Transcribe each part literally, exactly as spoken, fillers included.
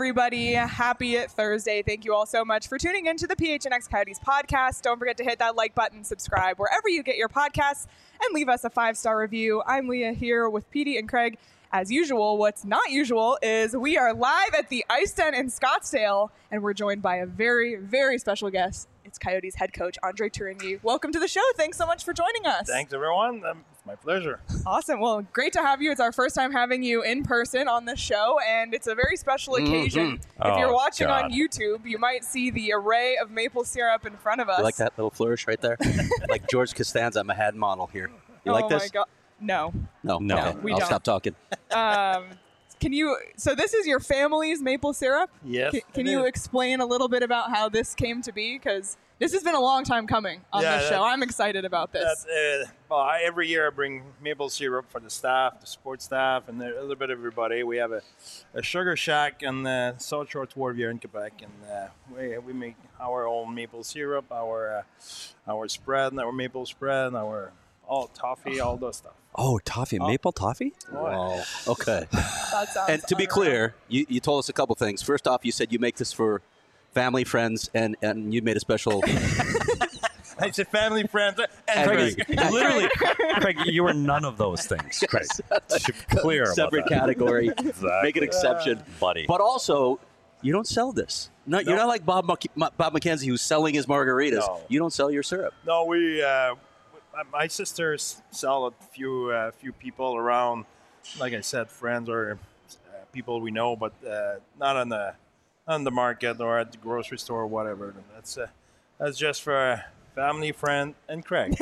everybody. Happy Thursday. Thank you all so much for tuning in to the P H N X Coyotes podcast. Don't forget to hit that like button, subscribe wherever you get your podcasts, and leave us a five-star review. I'm Leah here with Petey and Craig. As usual, what's not usual is we are live at the Ice Den in Scottsdale, and we're joined by a very, very special guest. It's Coyotes head coach Andre Tourigny. Welcome to the show. Thanks so much for joining us. Thanks, everyone. Um, it's my pleasure. Awesome. Well, great to have you. It's our first time having you in person on the show, and it's a very special occasion. Mm-hmm. If you're Oh, watching God. on YouTube, you might see the array of maple syrup in front of us. You like that little flourish right there? Like George Costanza, I'm a head model here. You oh like this? my God. No. No, No. Okay. We I'll don't. stop talking. Um, can you, so this is your family's maple syrup? Yes. Can, can it you is. explain a little bit about how this came to be? Because this has been a long time coming on Yeah, this that- show. I'm excited about this. That's, uh, well, I, every year I bring maple syrup for the staff, the support staff, and a little bit of everybody. We have a, a sugar shack in uh, South Shore Wharf here in Quebec, and uh, we, we make our own maple syrup, our uh, our spread, our maple spread, our all toffee, all those stuff. Oh, toffee, maple toffee? Wow. Okay. That sounds And to be unreal. clear, you, you told us a couple things. First off, you said you make this for family, friends, and, and you made a special. I said family, friends, and And Craig. Craig. Literally, Craig, you were none of those things, Craig. Clear about separate that. category. Exactly. Make an exception. Buddy. But also, you don't sell this. No, you're No. not like Bob Mc- Bob McKenzie who's selling his margaritas. No. You don't sell your syrup. No, we. Uh, my sisters sell a few uh, few people around. Like I said, friends or uh, people we know, but uh, not on the on the market or at the grocery store or whatever. That's uh, that's just for family, friend, and Craig.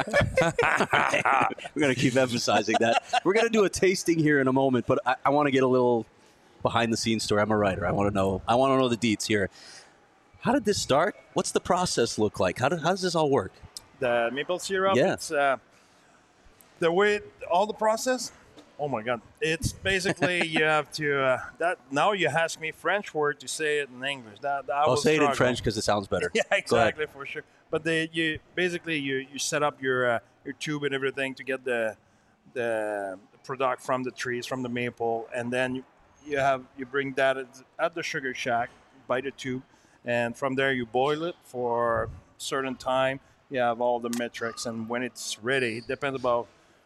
We're going to keep emphasizing that. We're going to do a tasting here in a moment, but I, I want to get a little behind the scenes story. I'm a writer. I want to know. I want to know the deets here. How did this start? What's the process look like? How, do, how does this all work? The maple syrup. Yeah. It's uh, the way all the process. Oh my God! It's basically you have to uh, that now you ask me French word to say it in English. That, that I I'll will say it in struggle. French because it sounds better. Yeah, Go ahead. exactly, for sure. But they, you basically you, you set up your uh, your tube and everything to get the the product from the trees, from the maple, and then you, you have you bring that at, at the sugar shack by the tube, and from there you boil it for a certain time. You have all the metrics, and when it's ready, it depends about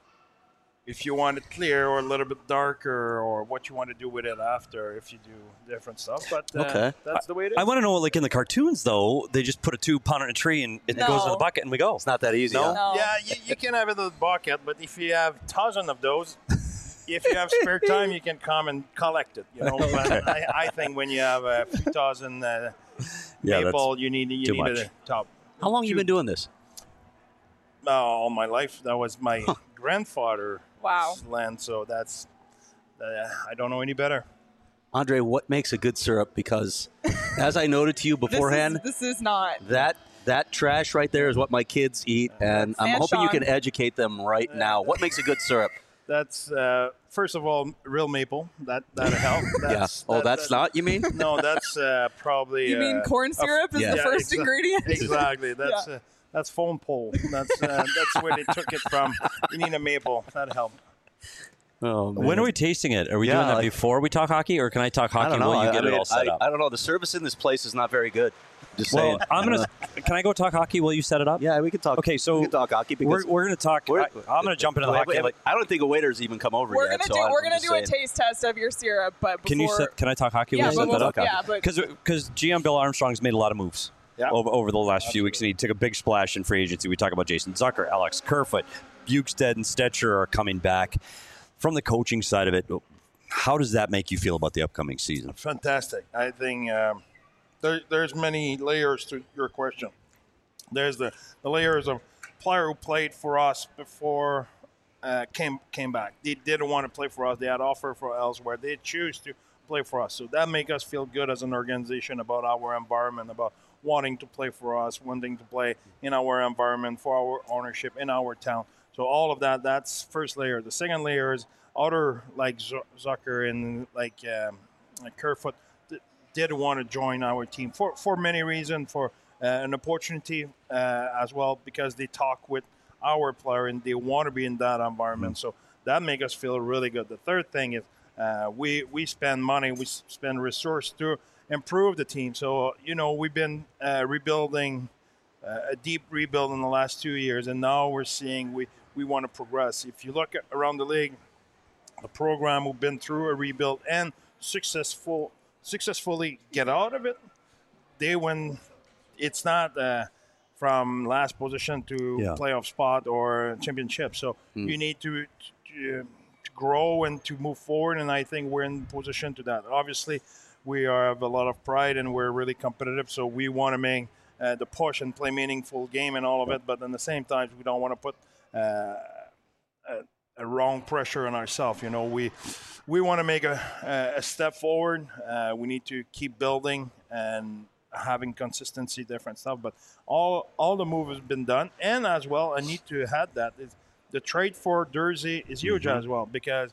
if you want it clear or a little bit darker, or what you want to do with it after. If you do different stuff, but uh, Okay. that's the way it is. I want to know, like in the cartoons, though, they just put a tube, pound it in a tree, and it No. goes in the bucket, and we go. It's not that easy. No. huh? No. Yeah, you, you can have it in the bucket, but if you have thousands of those, if you have spare time, you can come and collect it. You know, but I, I think when you have a few thousand uh, Yeah, maple, you need you too need much. a top. How long you been doing this? Uh, all my life, that was my grandfather's Wow. land, so that's uh, I don't know any better. Andre, what makes a good syrup? Because as I noted to you This beforehand, is, this is not. that that trash right there is what my kids eat, and I'm And hoping you Sean. can educate them right now. What makes a good syrup? That's uh, first of all real maple. That that help. That's, yeah. Oh, that- that's that- not, you mean? No, that's uh, probably. You mean uh, corn a- syrup is yeah. the first exa- ingredient? Exactly. That's uh, that's foam pole. That's uh, that's where they took it from. You need a maple. That helped. Oh, man. When are we tasting it? Are we Yeah, doing that like- before we talk hockey, or can I talk I hockey don't know. while you I, get I it mean, all set I, up? I don't know. The service in this place is not very good. Just well, saying. I'm gonna. Uh, Can I go talk hockey while you set it up? yeah, we can talk. Okay, so we can talk hockey We're, because we're gonna talk. we're- I, I'm gonna jump into the wait, hockey. wait, like, I don't think a waiter's even come over We're yet. gonna so do. I'm We're gonna just do a saying. taste test of your syrup, but before, can you set? Can I talk hockey Yeah, while you but set that we'll- up? yeah, but- because because G M Bill Armstrong's made a lot of moves. Yeah. Over, over the last few weeks, and he took a big splash in free agency. We talk about Jason Zucker, Alex Kerfoot, Bukestad, and Stetcher are coming back. From the coaching side of it, how does that make you feel about the upcoming season? Fantastic. I think um, there, there's many layers to your question. There's the, the layers of player who played for us before uh, came came back. They didn't want to play for us. They had offer for elsewhere. They choose to play for us. So that make us feel good as an organization about our environment, about wanting to play for us, wanting to play in our environment, for our ownership in our town. So all of that, that's first layer. The second layer is other like Z- Zucker and like, um, like Kerfoot th- did want to join our team for, for many reasons, for uh, an opportunity uh, as well, because they talk with our player and they want to be in that environment. So that make us feel really good. The third thing is Uh, we we spend money, we s- spend resource to improve the team. So you know we've been uh, rebuilding, uh, a deep rebuild in the last two years, and now we're seeing we we want to progress. If you look at, around the league, the program who've been through a rebuild and successful successfully get out of it, they win. It's not uh, from last position to Yeah. playoff spot or championship. So you need to, to, to grow and to move forward, and I think we're in position to that. Obviously, we are, have a lot of pride and we're really competitive, so we want to make uh, the push and play meaningful game and all of it. But at the same time, we don't want to put uh, a, a wrong pressure on ourselves. You know, we we want to make a, a step forward. Uh, we need to keep building and having consistency, different stuff. But all all the move has been done, and as well, I need to add that is the trade for Jersey is huge Mm-hmm. as well, because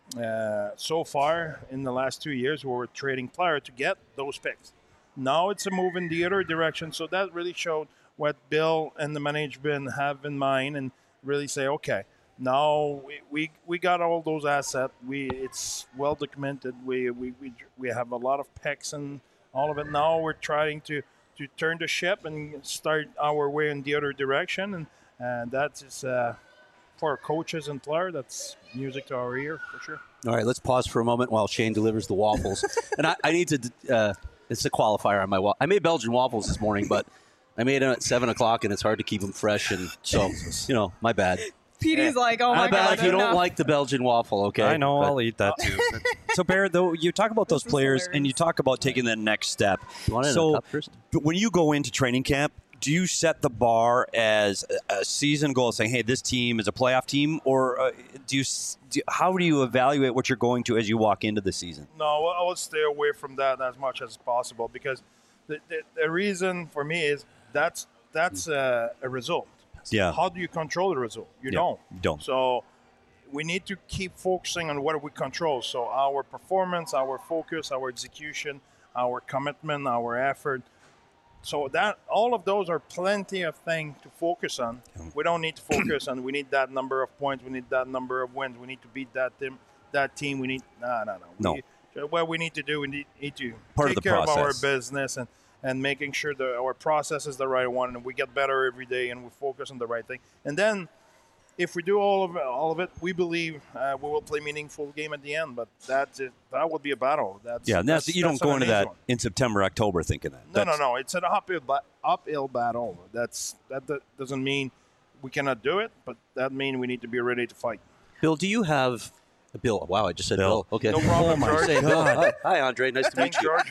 uh, so far in the last two years we were trading players to get those picks. Now it's a move in the other direction, so that really showed what Bill and the management have in mind, and really say, okay, now we, we, we got all those assets. We it's well documented. We, we we we have a lot of picks and all of it. Now we're trying to, to turn the ship and start our way in the other direction, and and that is uh, for coaches and players. That's music to our ear for sure. All right, let's pause for a moment while Shane delivers the waffles. and I, I need to, uh, it's a qualifier on my waffle. I made Belgian waffles this morning, but I made them at seven o'clock, and it's hard to keep them fresh. And so, you know, my bad. Petey's like, oh my my bad god, if you enough. don't like the Belgian waffle, okay? I know, But I'll eat that too. So, Bear, though, you talk about those This is players hilarious. and you talk about taking the next step. You want it in a so, cup first? but when you go into training camp, do you set the bar as a a season goal, saying, "Hey, this team is a playoff team," or uh, do you? s- Do, how do you evaluate what you're going to as you walk into the season? No, I will stay away from that as much as possible, because the, the, the reason for me is that's that's a, a result. Yeah. How do you control the result? You Yeah, don't. you don't. So we need to keep focusing on what we control. So our performance, our focus, our execution, our commitment, our effort. So that all of those are plenty of things to focus on. We don't need to focus on we need that number of points, we need that number of wins, we need to beat that team. That team, we need no, no, no. No. We, what we need to do, we need, need to Part of take the care of our process. business and and making sure that our process is the right one, and we get better every day, and we focus on the right thing. And then, if we do all of it, all of it, we believe uh, we will play meaningful game at the end. But that's it. That would be a battle. That's Yeah, and that's, you don't that's go an into amazing that one. in September, October thinking that. No, no, That's- no. It's an uphill, ba- uphill battle. That's that, that doesn't mean we cannot do it, but that means we need to be ready to fight. Bill, do you have Bill? Wow, I just said Bill. Bill. Okay. No problem, Oh, my George. say, Bill. Hi, hi, Andre. Nice to meet Thanks, you. George.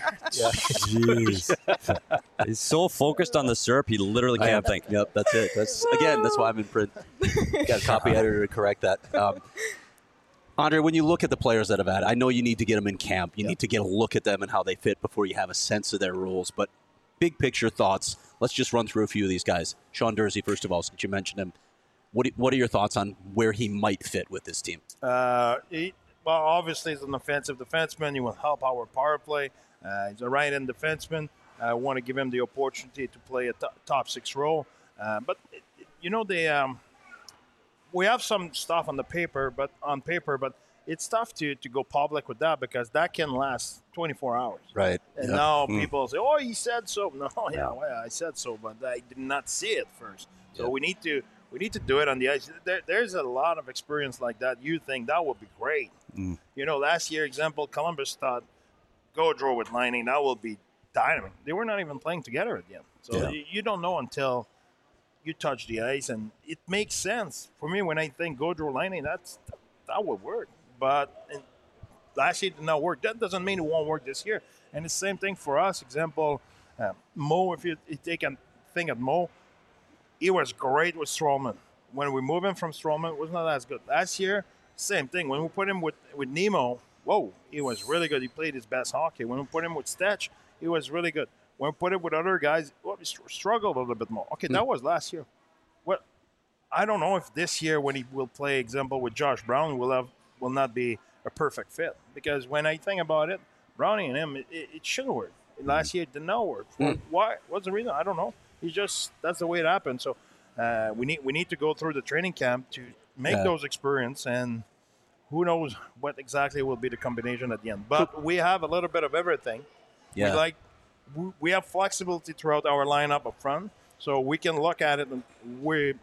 Jeez. He's so focused on the syrup, he literally I can't am. think. Yep, that's it. That's again. That's why I'm in print. Got a copy editor to correct that. Um, Andre, when you look at the players that have had, I know you need to get them in camp. You need to get a look at them and how they fit before you have a sense of their rules. But big picture thoughts. Let's just run through a few of these guys. Sean Dursey, first of all, since you mentioned him, what what are your thoughts on where he might fit with this team? Uh, he, well, obviously, he's an offensive defenseman. He will help our power play. Uh, he's a right-hand defenseman. I want to give him the opportunity to play a to- top six role. Uh, but it, it- you know, the um, we have some stuff on the paper, but on paper, but it's tough to, to go public with that, because that can last twenty-four hours. Right. And Yeah. now Mm. people say, "Oh, he said so." No, yeah, Yeah. well, I said so, but I did not see it first. So Yeah. we need to we need to do it on the ice. There, there's a lot of experience like that. You think that would be great? Mm. You know, last year, example, Columbus thought Gaudreau with Lining, that will be dynamic. They were not even playing together at the end. So Yeah. you, you don't know until you touch the ice, and it makes sense for me when I think Gaudreau Lining. That's that would work, but and last year did not work. That doesn't mean it won't work this year. And the same thing for us. Example, uh, Mo. If you, you take a thing at Mo, he was great with Stroman. When we move him from Stroman, it was not as good. Last year, same thing. When we put him with, with Nemo, whoa, he was really good. He played his best hockey. When we put him with Stetch, he was really good. When we put him with other guys, well, he str- struggled a little bit more. Okay, that was last year. Well, I don't know if this year, when he will play, example, with Josh Brown, will have will not be a perfect fit. Because when I think about it, Brownie and him, it, it, it should work. Last year, it did not work. Why? What's the reason? I don't know. He just that's the way it happened. So uh, we need we need to go through the training camp to make Yeah. those experience, and who knows what exactly will be the combination at the end. But we have a little bit of everything. Yeah. We like we, we have flexibility throughout our lineup up front, so we can look at it and we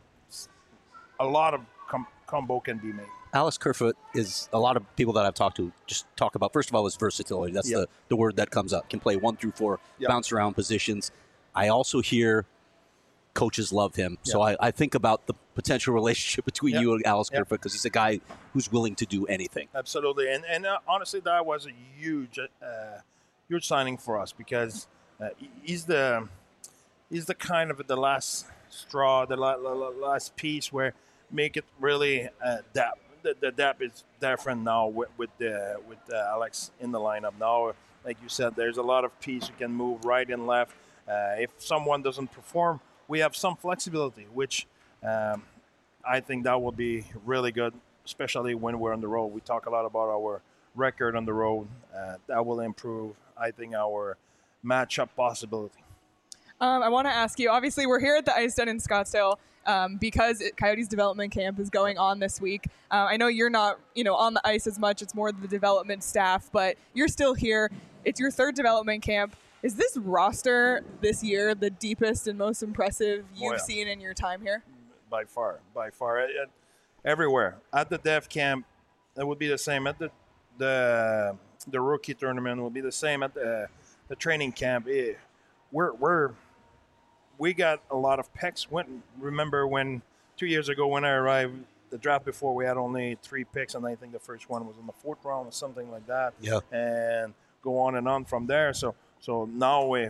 a lot of com- combo can be made. Alex Kerfoot is a lot of people that I've talked to just talk about, first of all, his versatility. That's Yeah. the, the word that comes up. Can play one through four, Yeah. bounce around positions. I also hear coaches love him. So I, I think about the potential relationship between Yeah. you and Alex Yeah. Kerfoot because he's a guy who's willing to do anything. Absolutely, and and uh, honestly, that was a huge, uh, huge signing for us because uh, he's the he's the kind of the last straw, the la- la- la- last piece where make it really uh, depth. The, the depth is different now with with the with uh, Alex in the lineup now. Like you said, there's a lot of piece you can move right and left. Uh, if someone doesn't perform, we have some flexibility, which um, I think that will be really good, especially when we're on the road. We talk a lot about our record on the road. Uh, that will improve, I think, our matchup possibility. Um, I want to ask you, obviously, we're here at the Ice Den in Scottsdale um, because it, Coyotes development camp is going on this week. Uh, I know you're not, you know, on the ice as much. It's more the development staff, but you're still here. It's your third development camp. Is this roster this year the deepest and most impressive you've yeah. seen in your time here? By far, by far, Uh, uh, everywhere at the Dev Camp, it would be the same at the the the rookie tournament. Will be the same at the the training camp. Eh, we're we're we got a lot of picks. When remember when two years ago when I arrived, the draft before we had only three picks, and I think the first one was in the fourth round or something like that. Yeah. And go on and on from there. So so now we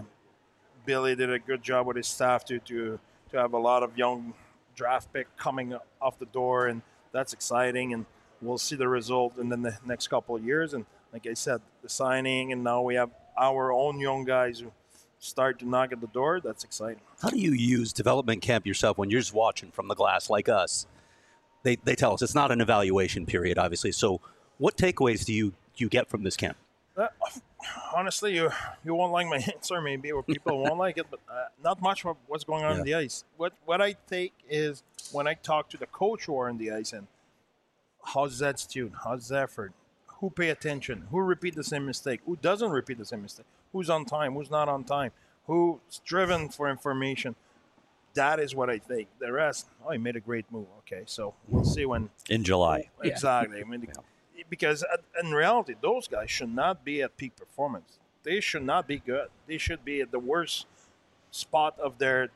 Billy did a good job with his staff to to to have a lot of young draft pick coming off the door, and that's exciting. And we'll see the result in the ne- next couple of years. And like I said, the signing, and now we have our own young guys who start to knock at the door. That's exciting. How do you use development camp yourself when you're just watching from the glass like us? They, they tell us it's not an evaluation period, obviously. So what takeaways do you, you get from this camp? Uh, honestly, you you won't like my answer, maybe, or people won't like it, but uh, not much of what's going on Yeah. in the ice. What what I take is when I talk to the coach who are in the ice, and how's Zed's tune, how's Zefford, who pay attention, who repeat the same mistake, who doesn't repeat the same mistake, who's on time, who's not on time, who's driven for information. That is what I think. The rest, oh, he made a great move. Okay, so we'll see when In July. Yeah. Exactly. I mean, because at, in reality, those guys should not be at peak performance. They should not be good. They should be at the worst spot of their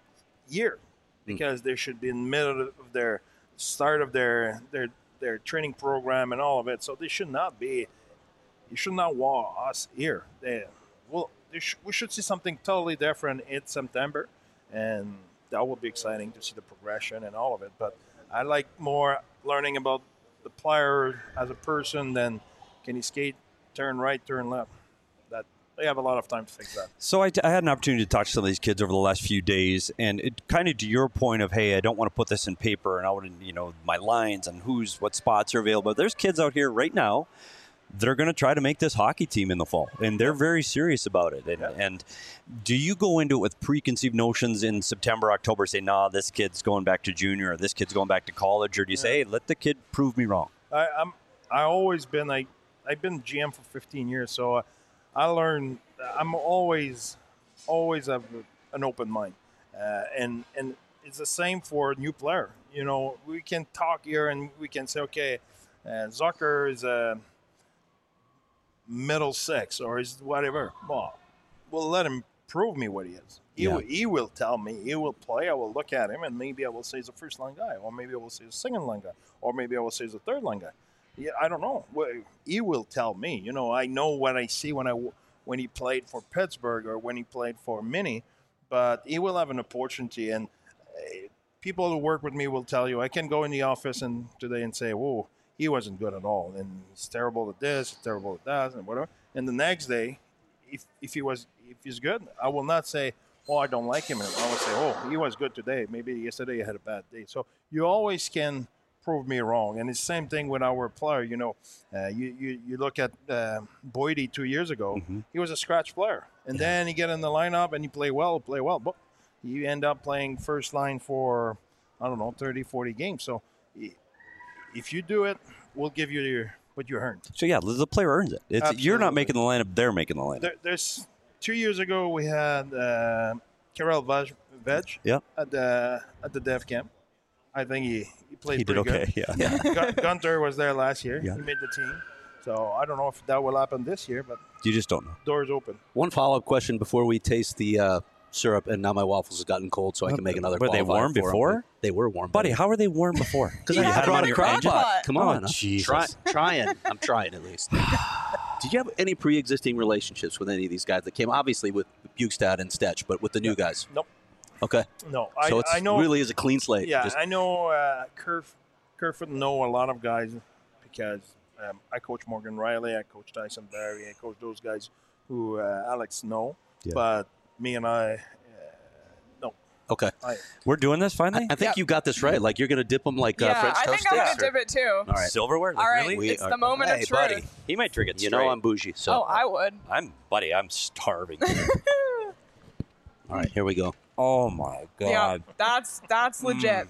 year, because they should be in the middle of their start of their their their training program and all of it. So they should not be. You should not want us here. They, well, they sh- we should see something totally different in September, and that will be exciting to see the progression and all of it. But I like more learning about the player as a person than can he skate, turn right, turn left. That they have a lot of time to fix that. So I, I had an opportunity to talk to some of these kids over the last few days, and it kind of to your point of, hey, I don't want to put this in paper and out in, you know, my lines and who's what spots are available. There's kids out here right now that are going to try to make this hockey team in the fall, and they're very serious about it. And, Yeah. and do you go into it with preconceived notions in September, October, say, nah, this kid's going back to junior, or this kid's going back to college, or do you say, hey, let the kid prove me wrong? I, I'm I always been I I've been G M for fifteen years, so uh, I learned. I'm always always have an open mind, uh, and and it's the same for a new player. You know, we can talk here and we can say, okay, uh, Zucker is a middle six or is whatever. Well, we'll let him prove me what he is. He, Yeah. will, he will tell me. He will play. I will look at him, and maybe I will say he's a first line guy, or maybe I will say he's a second line guy, or maybe I will say he's a third line guy. Yeah, I don't know. Well, he will tell me. You know, I know what I see when I when he played for Pittsburgh or when he played for Mini, but he will have an opportunity. And uh, people who work with me will tell you, I can go in the office and today and say, "Whoa, he wasn't good at all, and he's terrible at this, he's terrible at that, and whatever." And the next day, if if he was if he's good, I will not say, "Oh, I don't like him." And I will say, "Oh, he was good today. Maybe yesterday he had a bad day." So you always can prove me wrong. And it's the same thing with our player. You know, uh, you, you you look at uh, Boydie two years ago. Mm-hmm. He was a scratch player, and then he get in the lineup and he play well, play well, but he end up playing first line for I don't know thirty, forty games. So he, if you do it, we'll give you your what you earned. So yeah, the player earns it. It's, you're not Absolutely. making the lineup; they're making the lineup. There, there's two years ago we had uh, Karel Veg, Veg Yeah. at the at the Dev Camp. I think he, he played He did pretty okay. good. Yeah. Gun- Gunter was there last year. Yeah. He made the team. So I don't know if that will happen this year, but You just don't know. doors open. One follow-up question before we taste the uh, syrup, and now my waffles have gotten cold, so I can make another. Were they qualifier warm for 'em. before? They were warm, Buddy, how are they warm before? Because You I had had them them on in your your crock crock pot. pot. Come Oh, on, I'm Jesus. Try, trying. I'm trying at least. Did you have any pre-existing relationships with any of these guys that came? Obviously with Bukestad and Stetch, but with the new guys. Nope. Okay. No, I, So it's I know. really is a clean slate. Yeah, Just- I know. Uh, Kerf, Kerfoot know a lot of guys because um, I coach Morgan Riley, I coach Tyson Barry, I coach those guys who uh, Alex know. Yeah. But me and I, uh, no. okay. I, We're doing this finally. I think Yeah. you got this right. Like you're going to dip them like uh, yeah, French I toast think I'm sticks. gonna or- dip it too. All right. Silverware. All right, Really? We it's are- the moment Hey, of truth. buddy. He might drink it You straight. know I'm bougie, so Oh, I would. I'm, buddy. I'm starving. all right, here we go. oh my Yeah, god. that's that's legit.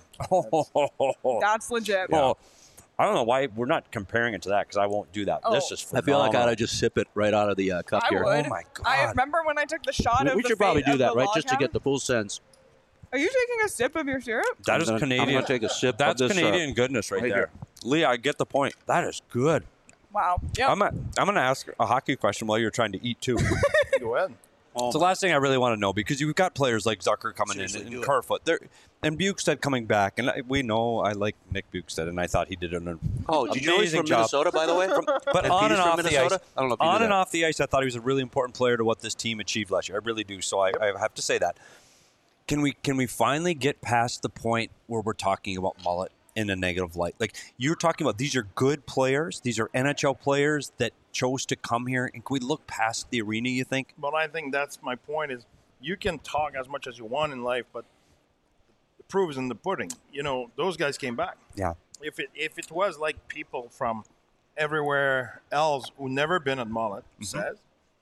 Oh, That's legit. Oh, I don't know why we're not comparing it to that because I won't do that. Oh. This is I feel like I phenomenal. ought to just sip it right out of the uh, cup I here. would. Oh my I God. remember when I took the shot We, of we the should probably fate do of that, the right? log Just to house. get the full sense. Are you taking a sip of your syrup? That I'm is gonna- I'm Canadian. gonna take a sip of That's this, uh, Canadian goodness right, right there. Lee, I get the point. That is good. Wow. Yep. I'm, a, I'm going to ask a hockey question while you're trying to eat too. go ahead. Oh, It's the last thing I really want to know because you've got players like Zucker coming Seriously, in do and it. Kerfoot. They're, and Bukestad coming back. And I, we know I like Nick Bukestad, and I thought he did an oh, did you know he's amazing from job. Minnesota, by the way? But And on Peter's and from off the Minnesota? ice, I don't know if you on knew and that. off the ice, I thought he was a really important player to what this team achieved last year. I really do. So I, I have to say that. Can we can we finally get past the point where we're talking about Mullet in a negative light? Like you're talking about, these are good players. These are N H L players that chose to come here. And can we look past the arena? You think? But I think that's my point is you can talk as much as you want in life, but the proof is in the pudding. You know, those guys came back. Yeah. If it if it was like people from everywhere else who never been at Mullet says,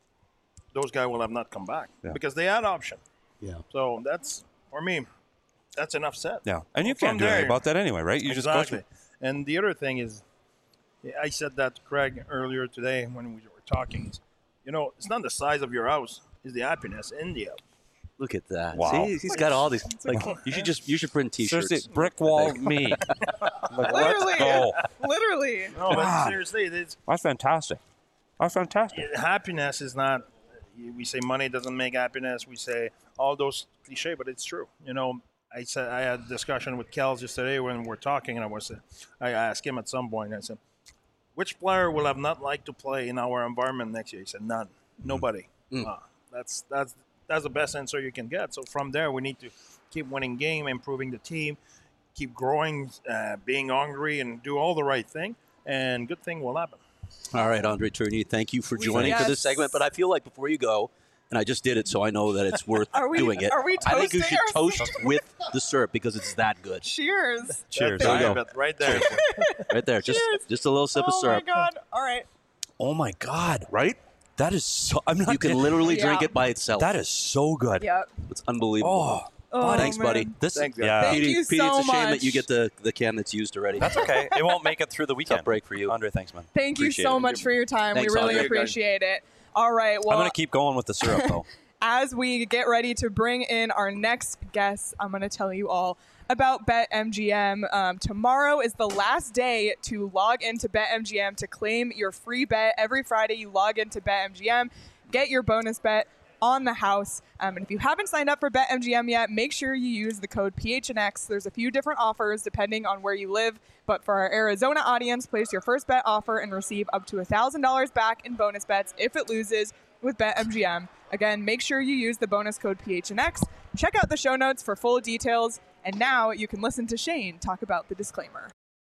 those guys will have not come back Yeah. because they had option. Yeah. So that's, for me, that's enough said. Yeah. And you From can't do anything there- about that anyway, right? You exactly. just go through. And the other thing is, I said that to Craig earlier today when we were talking. Is, you know, it's not the size of your house; it's the happiness in the house. Look at that. Wow. See, he's got all these. Like, you should just you should print T-shirts. Seriously, brick wall me. Like, Literally. let's go. Literally. No, but God. seriously, it's, That's fantastic. That's fantastic. happiness is not. We say money doesn't make happiness. We say all those cliche, but it's true. You know, I said I had a discussion with Kels yesterday when we're talking, and I was I asked him at some point. I said, "Which player will have not liked to play in our environment next year?" He said, "None, nobody." Mm. Ah, that's that's that's the best answer you can get. So from there, we need to keep winning game, improving the team, keep growing, uh, being hungry, and do all the right thing, and good thing will happen. All right, Andre Tournier, thank you for joining Yes. for this segment. But I feel like before you go, and I just did it, so I know that it's worth Are we- doing it. are we I think you toasting should toast with the syrup because it's that good. Cheers. Cheers. That's There you it, go. but right there. Right there, just Cheers. just a little sip of Oh syrup. my god. All right. Oh my God. Right? That is so. I'm not. You can literally drink Yeah. it by itself. That is so good. Yep. It's unbelievable. Oh, Oh, Thanks, man. buddy. this. Thanks, guys. yeah. Thank Petey, you Petey, so it's a shame much. that you get the, the can that's used already. That's okay. It won't make it through the weekend. Tough break for you. Andre, thanks, man. Thank you Appreciate so it. much for your time. Thanks, we really Andre. appreciate it. All right. Well, I'm gonna keep going with the syrup though. as we get ready to bring in our next guest, I'm going to tell you all about BetMGM. Um, tomorrow is the last day to log into BetMGM to claim your free bet. Every Friday, you log into BetMGM, get your bonus bet on the house. Um, and if you haven't signed up for BetMGM yet, make sure you use the code P H N X. There's a few different offers depending on where you live. But for our Arizona audience, place your first bet offer and receive up to one thousand dollars back in bonus bets if it loses with BetMGM. Again, make sure you use the bonus code P H N X. Check out the show notes for full details. And now you can listen to Shane talk about the disclaimer.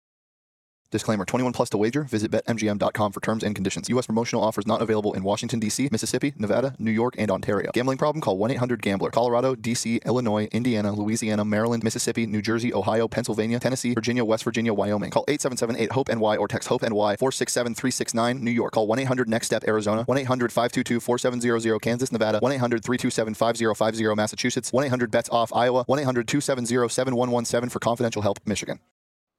Disclaimer, twenty-one plus to wager. Visit bet M G M dot com for terms and conditions. U S promotional offers not available in Washington, D C, Mississippi, Nevada, New York, and Ontario. Gambling problem? Call one eight hundred gambler. Colorado, D C, Illinois, Indiana, Louisiana, Maryland, Mississippi, New Jersey, Ohio, Pennsylvania, Tennessee, Virginia, West Virginia, Wyoming. Call eight seven seven eight hope N Y or text HOPE-NY four six seven three six nine. New York. Call one eight hundred next step Arizona. one eight hundred five two two four seven zero zero Kansas, Nevada. one eight hundred three two seven five zero five zero Massachusetts. one eight hundred bets off Iowa. one eight hundred two seven zero seven one one seven for confidential help, Michigan.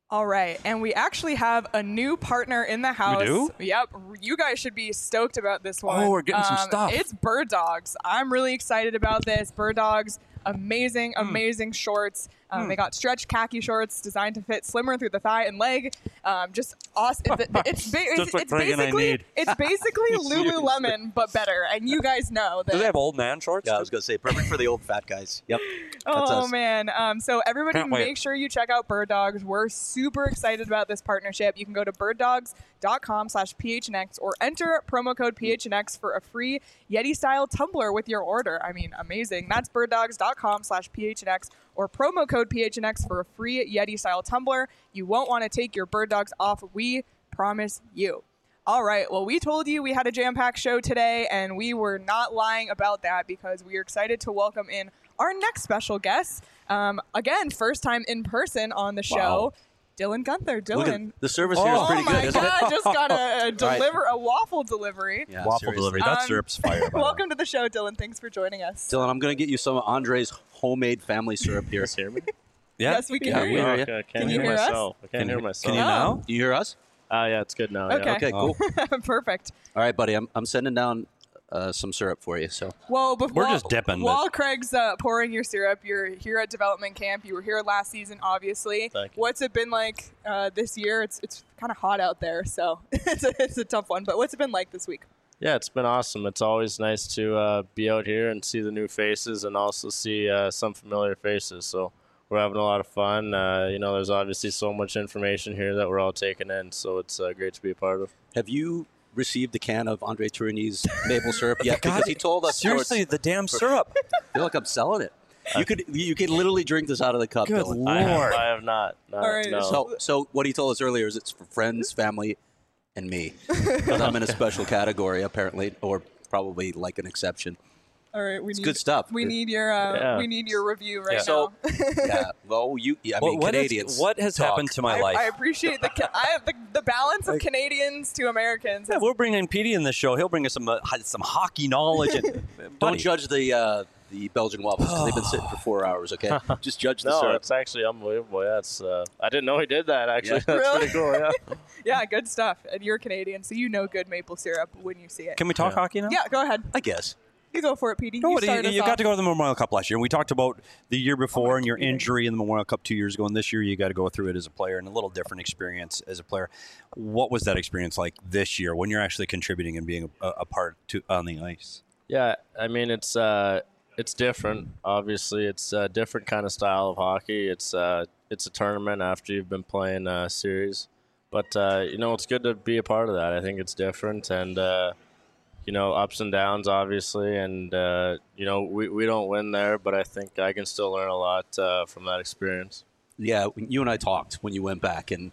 All right, and we actually have a new partner in the house. do? Yep, you guys should be stoked about this one. Oh, we're getting some Um, stuff. It's Bird Dogs. I'm really excited about this. Bird Dogs, amazing, Hmm. amazing shorts. Um, They got stretch khaki shorts designed to fit slimmer through the thigh and leg. Um, just awesome. It- It's, ba- it's, Just what it's Craig and I basically need. it's basically Lululemon but better, and you guys know that. Do they have old man shorts? Yeah, I was going to say, perfect for the old fat guys. Yep. That's Oh us. man! Um, so everybody, Can't wait. make sure you check out Bird Dogs. We're super excited about this partnership. You can go to birddogs dot com slash P H N X or enter promo code P H N X for a free Yeti style tumbler with your order. I mean, amazing! That's birddogs dot com slash P H N X or promo code P H N X for a free Yeti style tumbler. You won't want to take your Bird Dogs off. We promise you. All right. Well, we told you we had a jam-packed show today, and we were not lying about that because we are excited to welcome in our next special guest. Um, again, first time in person on the show, Wow. Dylan Gunther. Look at, Dylan. the service here is Oh pretty my good, isn't God! it? Just got a, a deliver a waffle delivery. Yeah, Waffle seriously. delivery. That Um, syrup's fire. by the way. Welcome to the show, Dylan. Thanks for joining us. Dylan, I'm going to get you some of Andre's homemade family syrup here. hear me? Yeah. Yes, we can Yeah, hear we you. hear you. Okay, I can't Can hear, you hear us? myself. I can't Can hear you- myself. can you Oh. now? Do you hear us? Ah, yeah, it's good now. Okay. Yeah. Okay, cool. Perfect. All right, buddy. I'm, I'm sending down uh, some syrup for you. So Well, before, We're just dipping, but- While Craig's uh, pouring your syrup, you're here at development camp. You were here last season, obviously. Thank you. What's it been like uh, this year? It's it's kind of hot out there, so it's a, it's a tough one. But what's it been like this week? Yeah, it's been awesome. It's always nice to uh, be out here and see the new faces and also see uh, some familiar faces. So we're having a lot of fun. Uh, you know, there's obviously so much information here that we're all taking in, so it's uh, great to be a part of. have you received a can of Andre Tourigny's maple syrup yet? God, Because he told us. Seriously, the damn syrup. I feel like I'm selling it. You could you could literally drink this out of the cup. Good Dylan. I have, Lord. I have not. not All right, no. So, so what he told us earlier is it's for friends, family, and me. Because I'm in a special category, apparently, or probably like an exception. All right, we need good stuff. We need your uh, Yeah. we need your review right Yeah. So, now. yeah. Well, you. I What- mean, what, is- Canadians. what has talk. happened to my I, life? I appreciate the ca- I have the, the balance of Canadians to Americans. Yeah, we're bringing Petey in the show. He'll bring us some uh, some hockey knowledge. And, Don't buddy, judge the uh, the Belgian waffles because they've been sitting for four hours. Okay, just judge the No, syrup. it's actually unbelievable. Yeah, it's, uh, I didn't know he did that, actually. Yeah. That's Really? pretty cool, yeah. Yeah, good stuff. And you're Canadian, so you know good maple syrup when you see it. Can we talk Yeah. hockey now? Yeah, go ahead. I guess. You go for it, Petey. No, you but you, start us you off. got to go to the Memorial Cup last year. And we talked about the year before Oh, and your yeah. injury in the Memorial Cup two years ago. And this year, you got to go through it as a player and a little different experience as a player. What was that experience like this year when you're actually contributing and being a, a part to on the ice? Yeah, I mean it's uh, it's different. Obviously, it's a different kind of style of hockey. It's uh, it's a tournament after you've been playing a series, but uh, you know it's good to be a part of that. I think it's different, and uh, you know ups and downs, obviously, and uh, you know we, we don't win there, but I think I can still learn a lot uh, from that experience. Yeah, when you and I talked when you went back, and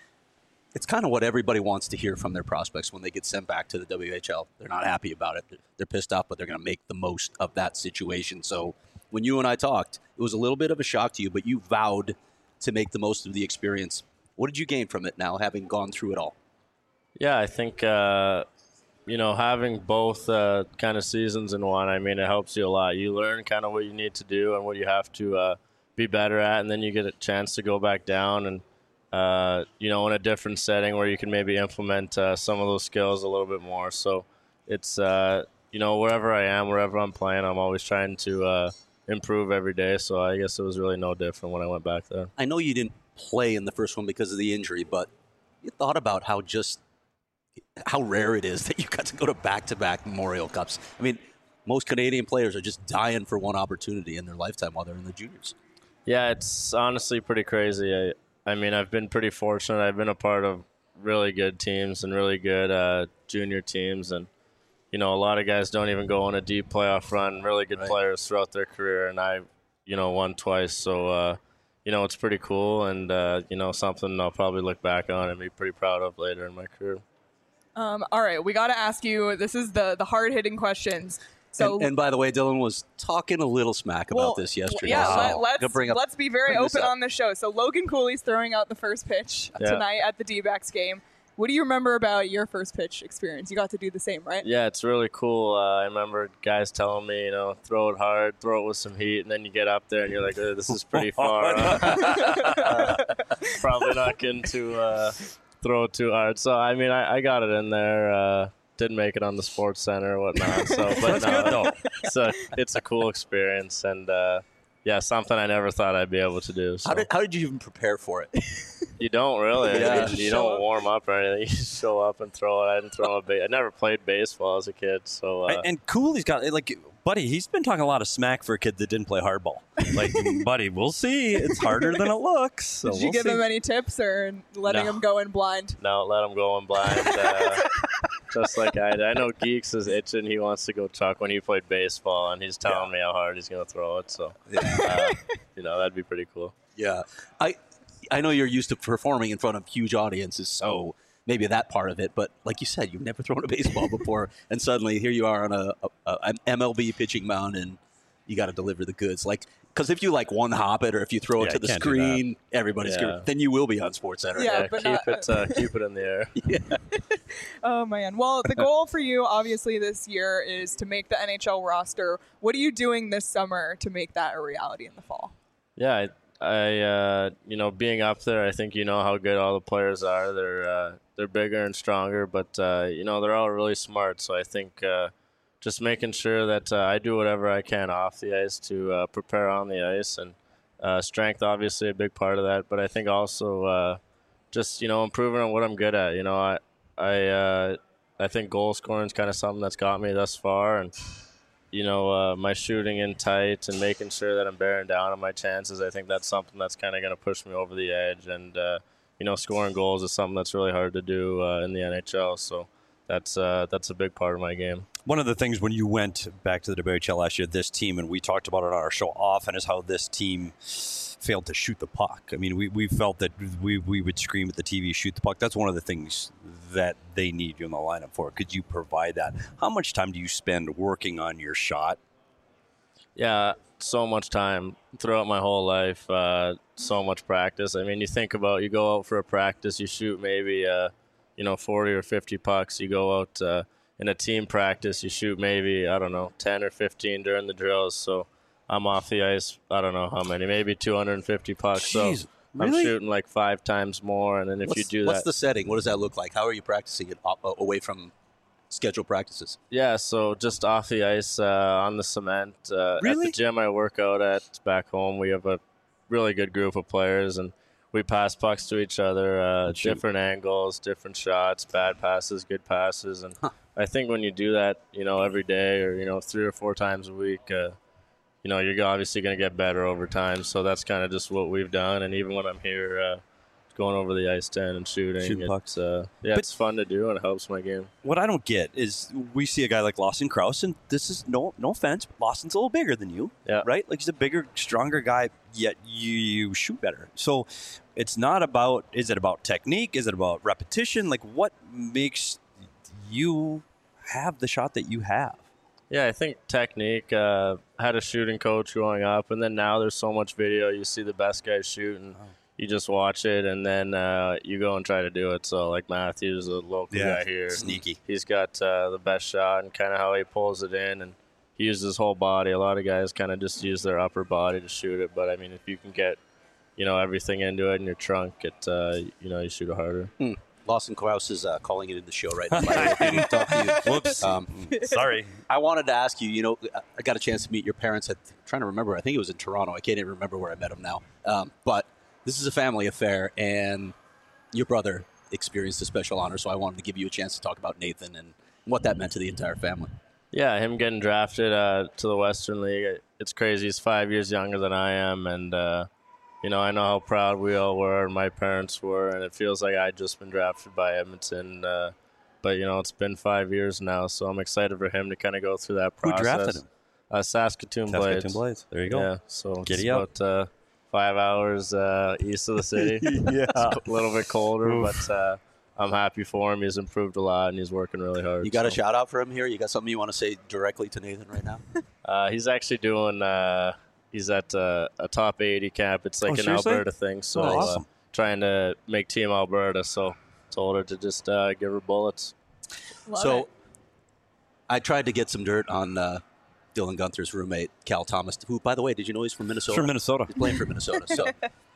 it's kind of what everybody wants to hear from their prospects when they get sent back to the W H L. They're not happy about it. They're, they're pissed off, but they're going to make the most of that situation. So when you and I talked, it was a little bit of a shock to you, but you vowed to make the most of the experience. What did you gain from it now, having gone through it all? Yeah, I think uh, you know having both uh, kind of seasons in one. I mean, it helps you a lot. You learn kind of what you need to do and what you have to uh, be better at, and then you get a chance to go back down and uh, you know in a different setting where you can maybe implement uh, some of those skills a little bit more. So it's uh, you know wherever I am, wherever I'm playing, I'm always trying to uh, improve every day. So I guess it was really no different when I went back there. I know you didn't play in the first one because of the injury, but you thought about how just how rare it is that you got to go to back-to-back Memorial Cups. I mean, most Canadian players are just dying for one opportunity in their lifetime while they're in the juniors. Yeah, it's honestly pretty crazy. I, I mean, I've been pretty fortunate. I've been a part of really good teams and really good uh, junior teams. And, you know, a lot of guys don't even go on a deep playoff run, really good Right. players throughout their career. And I, you know, won twice. So, uh, you know, it's pretty cool and, uh, you know, something I'll probably look back on and be pretty proud of later in my career. Um, all right, we got to ask you. This is the the hard hitting questions. So, and, and by the way, Dylan was talking a little smack about well, this yesterday. Yeah, so let, I'm let's gonna bring up- let's be very bring this open up. on the show. So Logan Cooley's throwing out the first pitch Yeah. tonight at the D-backs game. What do you remember about your first pitch experience? You got to do the same, right? Yeah, it's really cool. Uh, I remember guys telling me, you know, throw it hard, throw it with some heat, and then you get up there and you're like, oh, this is pretty far. huh? probably not getting to uh, throw it too hard. So I mean, I, I got it in there. Uh, didn't make it on the Sports Center or whatnot. So, but That's no, good though. So it's a cool experience, and uh, yeah, something I never thought I'd be able to do. So. How did how did you even prepare for it? You don't really. Yeah. You, you don't warm up or anything. You just show up and throw it. I didn't throw a base. I never played baseball as a kid, so. Uh, And, and Cooley's got like, buddy. He's been talking a lot of smack for a kid that didn't play hardball. Like, buddy, we'll see. It's harder than it looks. So Did you we'll give see. him any tips or letting No. him go in blind? No, let him go in blind. Uh, just like I did. I know Geeks is itching. He wants to go chuck when he played baseball, and he's telling Yeah. me how hard he's going to throw it. So, uh, you know, that'd be pretty cool. Yeah, I I know you're used to performing in front of huge audiences, so maybe that part of it. But like you said, you've never thrown a baseball before, and suddenly here you are on a, a, a an M L B pitching mound, and you got to deliver the goods. Like, because if you like one hop it, or if you throw it Yeah, to the can't do screen, everybody's Yeah. gonna, then you will be on Sports Center. Yeah, Yeah, but keep not- it uh, keep it in the air. Oh man. Well, the goal for you obviously this year is to make the N H L roster. What are you doing this summer to make that a reality in the fall? Yeah, I, I uh, you know, being up there, I think you know how good all the players are. They're uh, they're bigger and stronger, but uh, you know they're all really smart. So I think uh, just making sure that uh, I do whatever I can off the ice to uh, prepare on the ice, and uh, strength obviously a big part of that. But I think also uh, just you know improving on what I'm good at. You know, I I uh, I think goal scoring is kind of something that's got me thus far, and you know, uh, my shooting in tight and making sure that I'm bearing down on my chances. I think that's something that's kind of going to push me over the edge. And, uh, you know, scoring goals is something that's really hard to do uh, in the N H L. So that's uh, that's a big part of my game. One of the things when you went back to the W H L last year, this team, and we talked about it on our show often, is how this team failed to shoot the puck. I mean, we, we felt that we, we would scream at the T V, shoot the puck. That's one of the things that they need you in the lineup for. Could you provide that? How much time do you spend working on your shot? Yeah, so much time throughout my whole life, uh, so much practice. I mean, you think about, you go out for a practice, you shoot maybe, uh, you know, forty or fifty pucks. You go out uh, in a team practice, you shoot maybe, I don't know, ten or fifteen during the drills. So I'm off the ice, I don't know how many, maybe two hundred fifty pucks. Jeez, so really? I'm shooting like five times more. And then if what's, you do what's that. the setting? What does that look like? How are you practicing it op- away from scheduled practices? Yeah, so just off the ice uh, on the cement. Uh, At Really? the gym I work out at back home, we have a really good group of players, and we pass pucks to each other, uh, shoot. different angles, different shots, bad passes, good passes. And I think when you do that, you know, every day or, you know, three or four times a week, uh, you know, you're obviously going to get better over time. So that's kind of just what we've done. And even when I'm here, uh, going over the ice ten and shooting, Shooting it's, pucks. uh, yeah, But- it's fun to do and it helps my game. What I don't get is we see a guy like Lawson Krause, and this is no no offense, but Lawson's a little bigger than you, Yeah. right? Like he's a bigger, stronger guy, yet you, you shoot better. So it's not about, is it about technique? Is it about repetition? Like what makes you have the shot that you have? Yeah, I think technique. Uh, I had a shooting coach growing up, and then now there's so much video. You see the best guys shooting. You just watch it, and then uh, you go and try to do it. So, like Matthews, a local Yeah, guy here, sneaky. He's got uh, the best shot and kind of how he pulls it in, and he uses his whole body. A lot of guys kind of just use their upper body to shoot it, but I mean, if you can get, you know, everything into it in your trunk, it uh, you know, you shoot it harder. Hmm. Lawson Krause is uh, calling it in the show right now. By the way, if he didn't talk to you. Whoops. Um, Sorry. I wanted to ask you, you know, I got a chance to meet your parents at, I'm trying to remember, I think it was in Toronto. I can't even remember where I met them now. Um, but this is a family affair, and your brother experienced a special honor, so I wanted to give you a chance to talk about Nathan and what that meant to the entire family. Yeah, him getting drafted uh, to the Western League, it's crazy. He's five years younger than I am, and uh, you know, I know how proud we all were, and my parents were, and it feels like I'd just been drafted by Edmonton. Uh, but, you know, it's been five years now, so I'm excited for him to kind of go through that Who process. drafted him? Uh, Saskatoon, Saskatoon Blades. Blades. There you go. Yeah, so Giddy it's up. about uh, five hours uh, east of the city. Yeah. It's a little bit colder, but uh, I'm happy for him. He's improved a lot, and he's working really hard. You got a so. shout out for him here? You got something you want to say directly to Nathan right now? Uh, he's actually doing. Uh, he's at uh, a top eighty camp. It's like Oh, an seriously? Alberta thing. So Oh, awesome. uh, trying to make Team Alberta. So told her to just uh, give her bullets. Love so it. I tried to get some dirt on uh, Dylan Gunther's roommate, Cal Thomas, who, by the way, did you know he's from Minnesota? From Minnesota. He's playing for Minnesota. So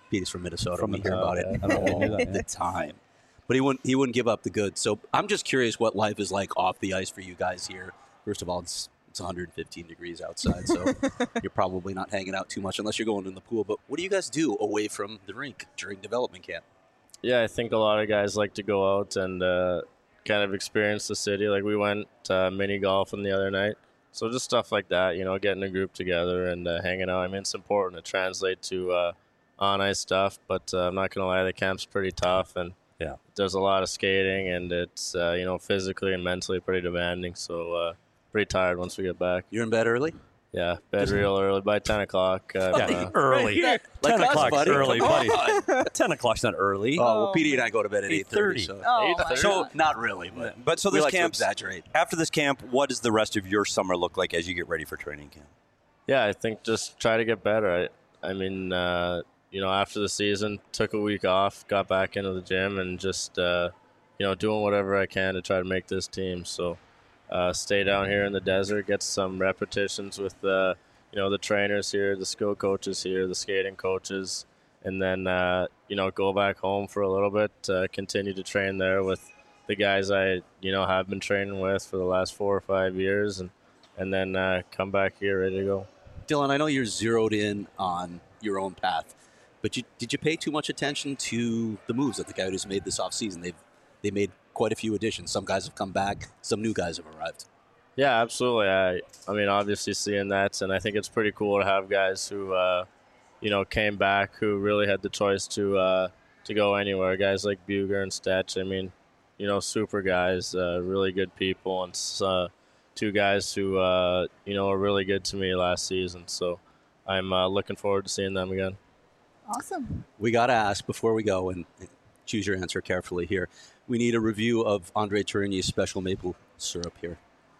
Petey's from Minnesota. From we hear about it Minnesota, yeah. I don't know all that, yeah. the time. But he wouldn't he wouldn't give up the goods. So I'm just curious what life is like off the ice for you guys here. First of all, it's it's one hundred fifteen degrees outside, so you're probably not hanging out too much unless you're going in the pool. But what do you guys do away from the rink during development camp? Yeah, I think a lot of guys like to go out and uh, kind of experience the city. Like we went uh, mini golfing the other night. So just stuff like that, you know, getting a group together and uh, hanging out. I mean, it's important to translate to uh, on-ice stuff, but uh, I'm not going to lie, the camp's pretty tough, and Yeah. there's a lot of skating, and it's, uh, you know, physically and mentally pretty demanding. So uh, pretty tired once we get back. You're in bed early? Yeah, bed real early, by ten o'clock. Uh, Yeah, uh, early. Like ten us, o'clock's buddy. early, Come buddy. ten o'clock's not early. Oh, well, Oh, Petey and I go to bed at eight thirty. eight thirty. So. Oh, my So- God. Not really, but, But so we this like to camp's exaggerate. after this camp. What does the rest of your summer look like as you get ready for training camp? Yeah, I think just try to get better. I, I mean, uh, you know, after the season, took a week off, got back into the gym, and just, uh, you know, doing whatever I can to try to make this team. So uh, stay down here in the desert, get some repetitions with, uh, you know, the trainers here, the skill coaches here, the skating coaches, and then, uh, you know, go back home for a little bit, uh, continue to train there with the guys I, you know, have been training with for the last four or five years, and, and then uh, come back here ready to go. Dylan, I know you're zeroed in on your own path, but you, did you pay too much attention to the moves that the Coyotes made this offseason? They've they made quite a few additions. Some guys have come back. Some new guys have arrived. Yeah, absolutely. I, I mean, obviously seeing that, and I think it's pretty cool to have guys who, uh, you know, came back who really had the choice to uh, to go anywhere. Guys like Buger and Stetch. I mean, you know, super guys, uh, really good people, and uh, two guys who, uh, you know, were really good to me last season. So I'm uh, looking forward to seeing them again. Awesome. We got to ask before we go, and choose your answer carefully here. We need a review of Andre Tourigny's special maple syrup here.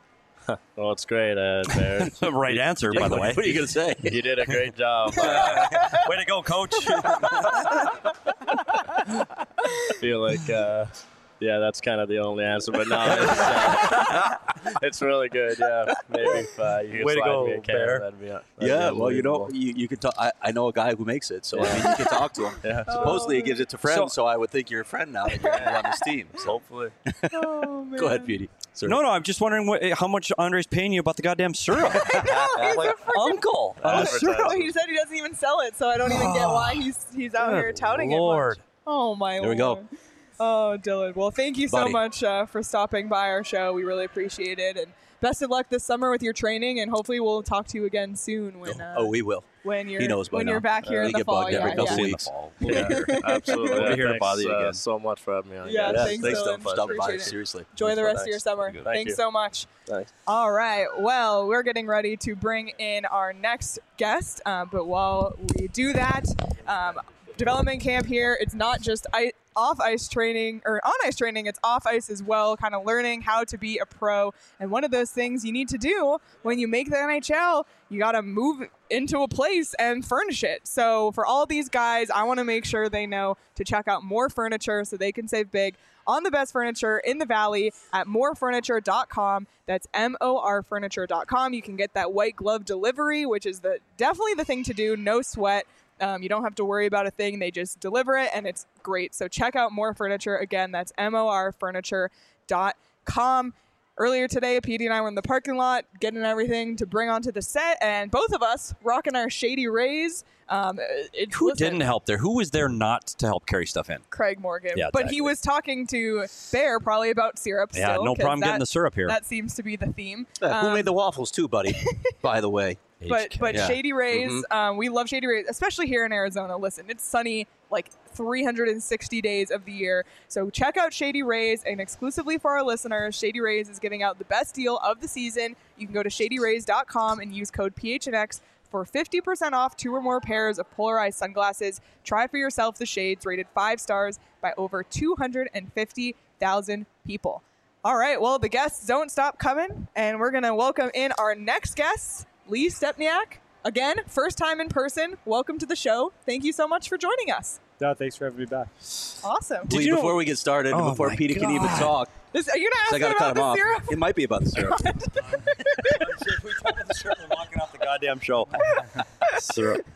Well, it's great, uh, Bear. Right answer, by the way. What are you going to say? You did a great job. Uh, Way to go, coach. I feel like, uh, yeah, that's kind of the only answer. But no, it's, uh, it's really good. Yeah, maybe if uh, you could Way to slide go, me a can, Bear. that'd be, that'd Yeah, be well, you know, unbelievable. you, you can talk. I, I know a guy who makes it, so I Yeah. mean, you can talk to him. Yeah. Supposedly, he gives it to friends, so, So- I would think you're a friend now that you're on this team. So Hopefully. Oh, man. go ahead, Petey. Sorry. No, no, I'm just wondering what, how much Andre's paying you about the goddamn syrup. No, he's like a freaking uncle on the syrup. Well, he said he doesn't even sell it, so I don't even get why he's he's out here Good touting Lord. it. Much. Oh my There we go. Lord. Oh, Dylan. Well, thank you so Buddy. much uh, for stopping by our show. We really appreciate it, and best of luck this summer with your training. And hopefully, we'll talk to you again soon when uh, oh, we will. when you're He knows by when now. you're back here Uh, in we the get fall. bugged Yeah, every couple yeah. weeks. In the fall. Yeah, absolutely. We'll be here to Thanks, bother you uh, again. so much for having me on. Yeah, guys. thanks, Thanks, Dylan. Dylan, for stopping by. Appreciate it. Seriously. Enjoy the rest of your Thanks. summer. Thank Thanks you. so much. Thanks. All right. Well, we're getting ready to bring in our next guest. Uh, but while we do that, um, development camp here, it's not just I- off ice training or on ice training, it's off ice as well, kind of learning how to be a pro. And one of those things you need to do when you make the N H L, you got to move into a place and furnish it. So for all these guys, I want to make sure they know to check out More Furniture so they can save big on the best furniture in the Valley at more furniture dot com. That's M O R furniture dot com. You can get that white glove delivery, which is the definitely the thing to do. No sweat. Um, you don't have to worry about a thing. They just deliver it, and it's great. So check out More Furniture. Again, that's M O R furniture dot com. Earlier today, Petey and I were in the parking lot getting everything to bring onto the set, and both of us rocking our Shady Rays. Um, it, Who listen, didn't help there? Who was there not to help carry stuff in? Craig Morgan. Yeah, But exactly. he was talking to Bear probably about syrup Yeah, still, no 'cause problem that, getting the syrup here. That seems to be the theme. Yeah, who Um, made the waffles too, buddy? By the way. But but Yeah. Shady Rays, Mhm. um, we love Shady Rays, especially here in Arizona. Listen, it's sunny like three hundred sixty days of the year. So check out Shady Rays, and exclusively for our listeners, Shady Rays is giving out the best deal of the season. You can go to shady rays dot com and use code P H N X for fifty percent off two or more pairs of polarized sunglasses. Try for yourself the shades rated five stars by over two hundred fifty thousand people. All right, well, the guests don't stop coming, and we're going to welcome in our next guest, Lee Stepniak. Again, first time in person. Welcome to the show. Thank you so much for joining us. No, thanks for having me back. Awesome. Lee, you know- before we get started, Oh before my Petey can even God. talk, This, are you I going got to to ask cut him about off. the syrup? It might be about the syrup. we talk about the syrup and walking off the goddamn show. Syrup.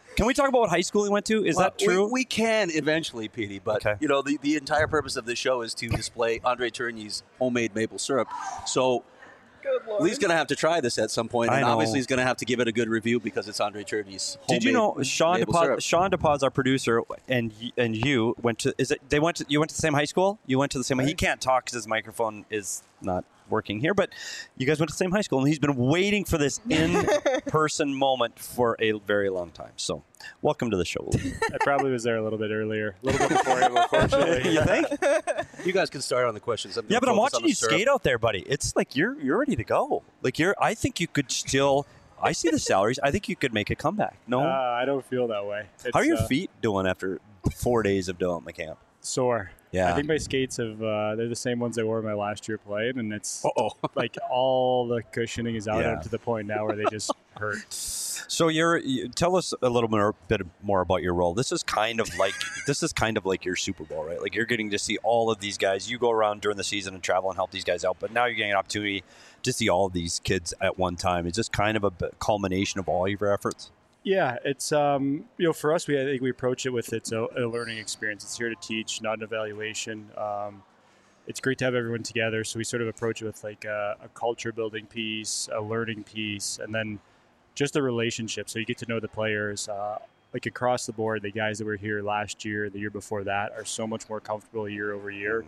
Can we talk about what high school he went to? Is Well, that true? We, we can eventually, Petey, but Okay. you know the, the entire purpose of this show is to display Andre Tourigny's homemade maple syrup. So Good Lord. Lee's going to have to try this at some point, I and know. obviously he's going to have to give it a good review because it's Andre Tourigny's homemade Did you know Sean maple DePaz, syrup. Sean DePaz, our producer, and y- and you went to? Is it they went to? You went to the same high school? You went to the same. He can't talk because his microphone is not working here. But you guys went to the same high school, and he's been waiting for this in-person moment for a very long time. So, welcome to the show. I probably was there a little bit earlier, a little bit before him, unfortunately. You think? You guys can start on the questions. I'm Yeah, gonna but I'm focus on watching the you syrup. skate out there, buddy. It's like you're you're ready to go. Like you're. I think you could still. I see the salaries. I think you could make a comeback. No. Uh, I don't feel that way. It's, How are your uh, feet doing after four days of development camp? Sore. Yeah. I think my skates have, uh, they're the same ones I wore my last year playing, and it's Uh-oh. like all the cushioning is out Yeah. up to the point now where they just hurt. So you're you, tell us a little more, bit more about your role. This is kind of like this is kind of like your Super Bowl, right? Like you're getting to see all of these guys. You go around during the season and travel and help these guys out, but now you're getting an opportunity to see all of these kids at one time. Is this kind of a b- culmination of all of your efforts? Yeah, it's um, you know, for us, we I think we approach it with it's a, a learning experience. It's here to teach, not an evaluation. Um, it's great to have everyone together, so we sort of approach it with like a, a culture building piece, a learning piece, and then just a relationship. So you get to know the players. Uh, like across the board, the guys that were here last year, the year before that, are so much more comfortable year over year.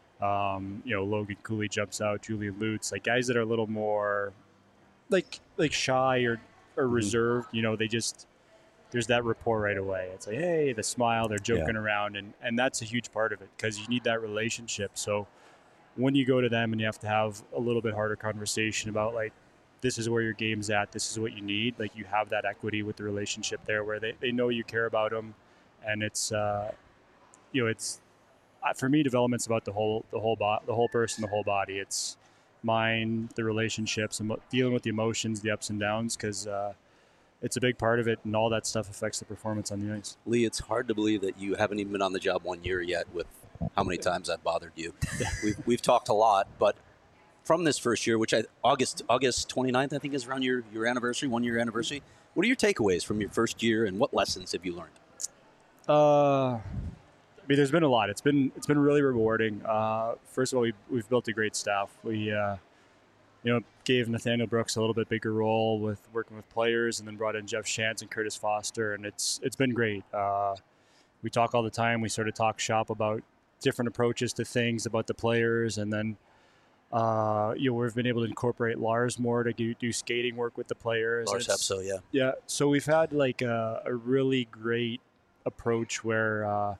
Um, you know, Logan Cooley jumps out, Julian Lutz, like guys that are a little more like like shy or or reserved. You know, they just there's that rapport right away. It's like, hey, the smile, they're joking Yeah. around, and and that's a huge part of it because you need that relationship. So when you go to them and you have to have a little bit harder conversation about like, this is where your game's at, this is what you need, like you have that equity with the relationship there where they, they know you care about them, and it's uh, you know, it's uh, for me, development's about the whole the whole bo- the whole person, the whole body. It's mind, the relationships, and dealing with the emotions, the ups and downs, because uh, it's a big part of it, and all that stuff affects the performance on the ice. Lee, it's hard to believe that you haven't even been on the job one year yet with how many times I've bothered you. we've, we've talked a lot, but from this first year, which I August August twenty-ninth, I think is around your, your anniversary, one year anniversary. What are your takeaways from your first year, and what lessons have you learned? Uh, I mean, there's been a lot. It's been it's been really rewarding. Uh, first of all, we we've built a great staff. We uh, you know gave Nathaniel Brooks a little bit bigger role with working with players, and then brought in Jeff Shantz and Curtis Foster, and it's it's been great. Uh, we talk all the time. We sort of talk shop about different approaches to things, about the players, and then uh, you know we've been able to incorporate Lars more to do, do skating work with the players. Lars It's- Hepso, yeah. yeah, so we've had like a, a really great approach where uh,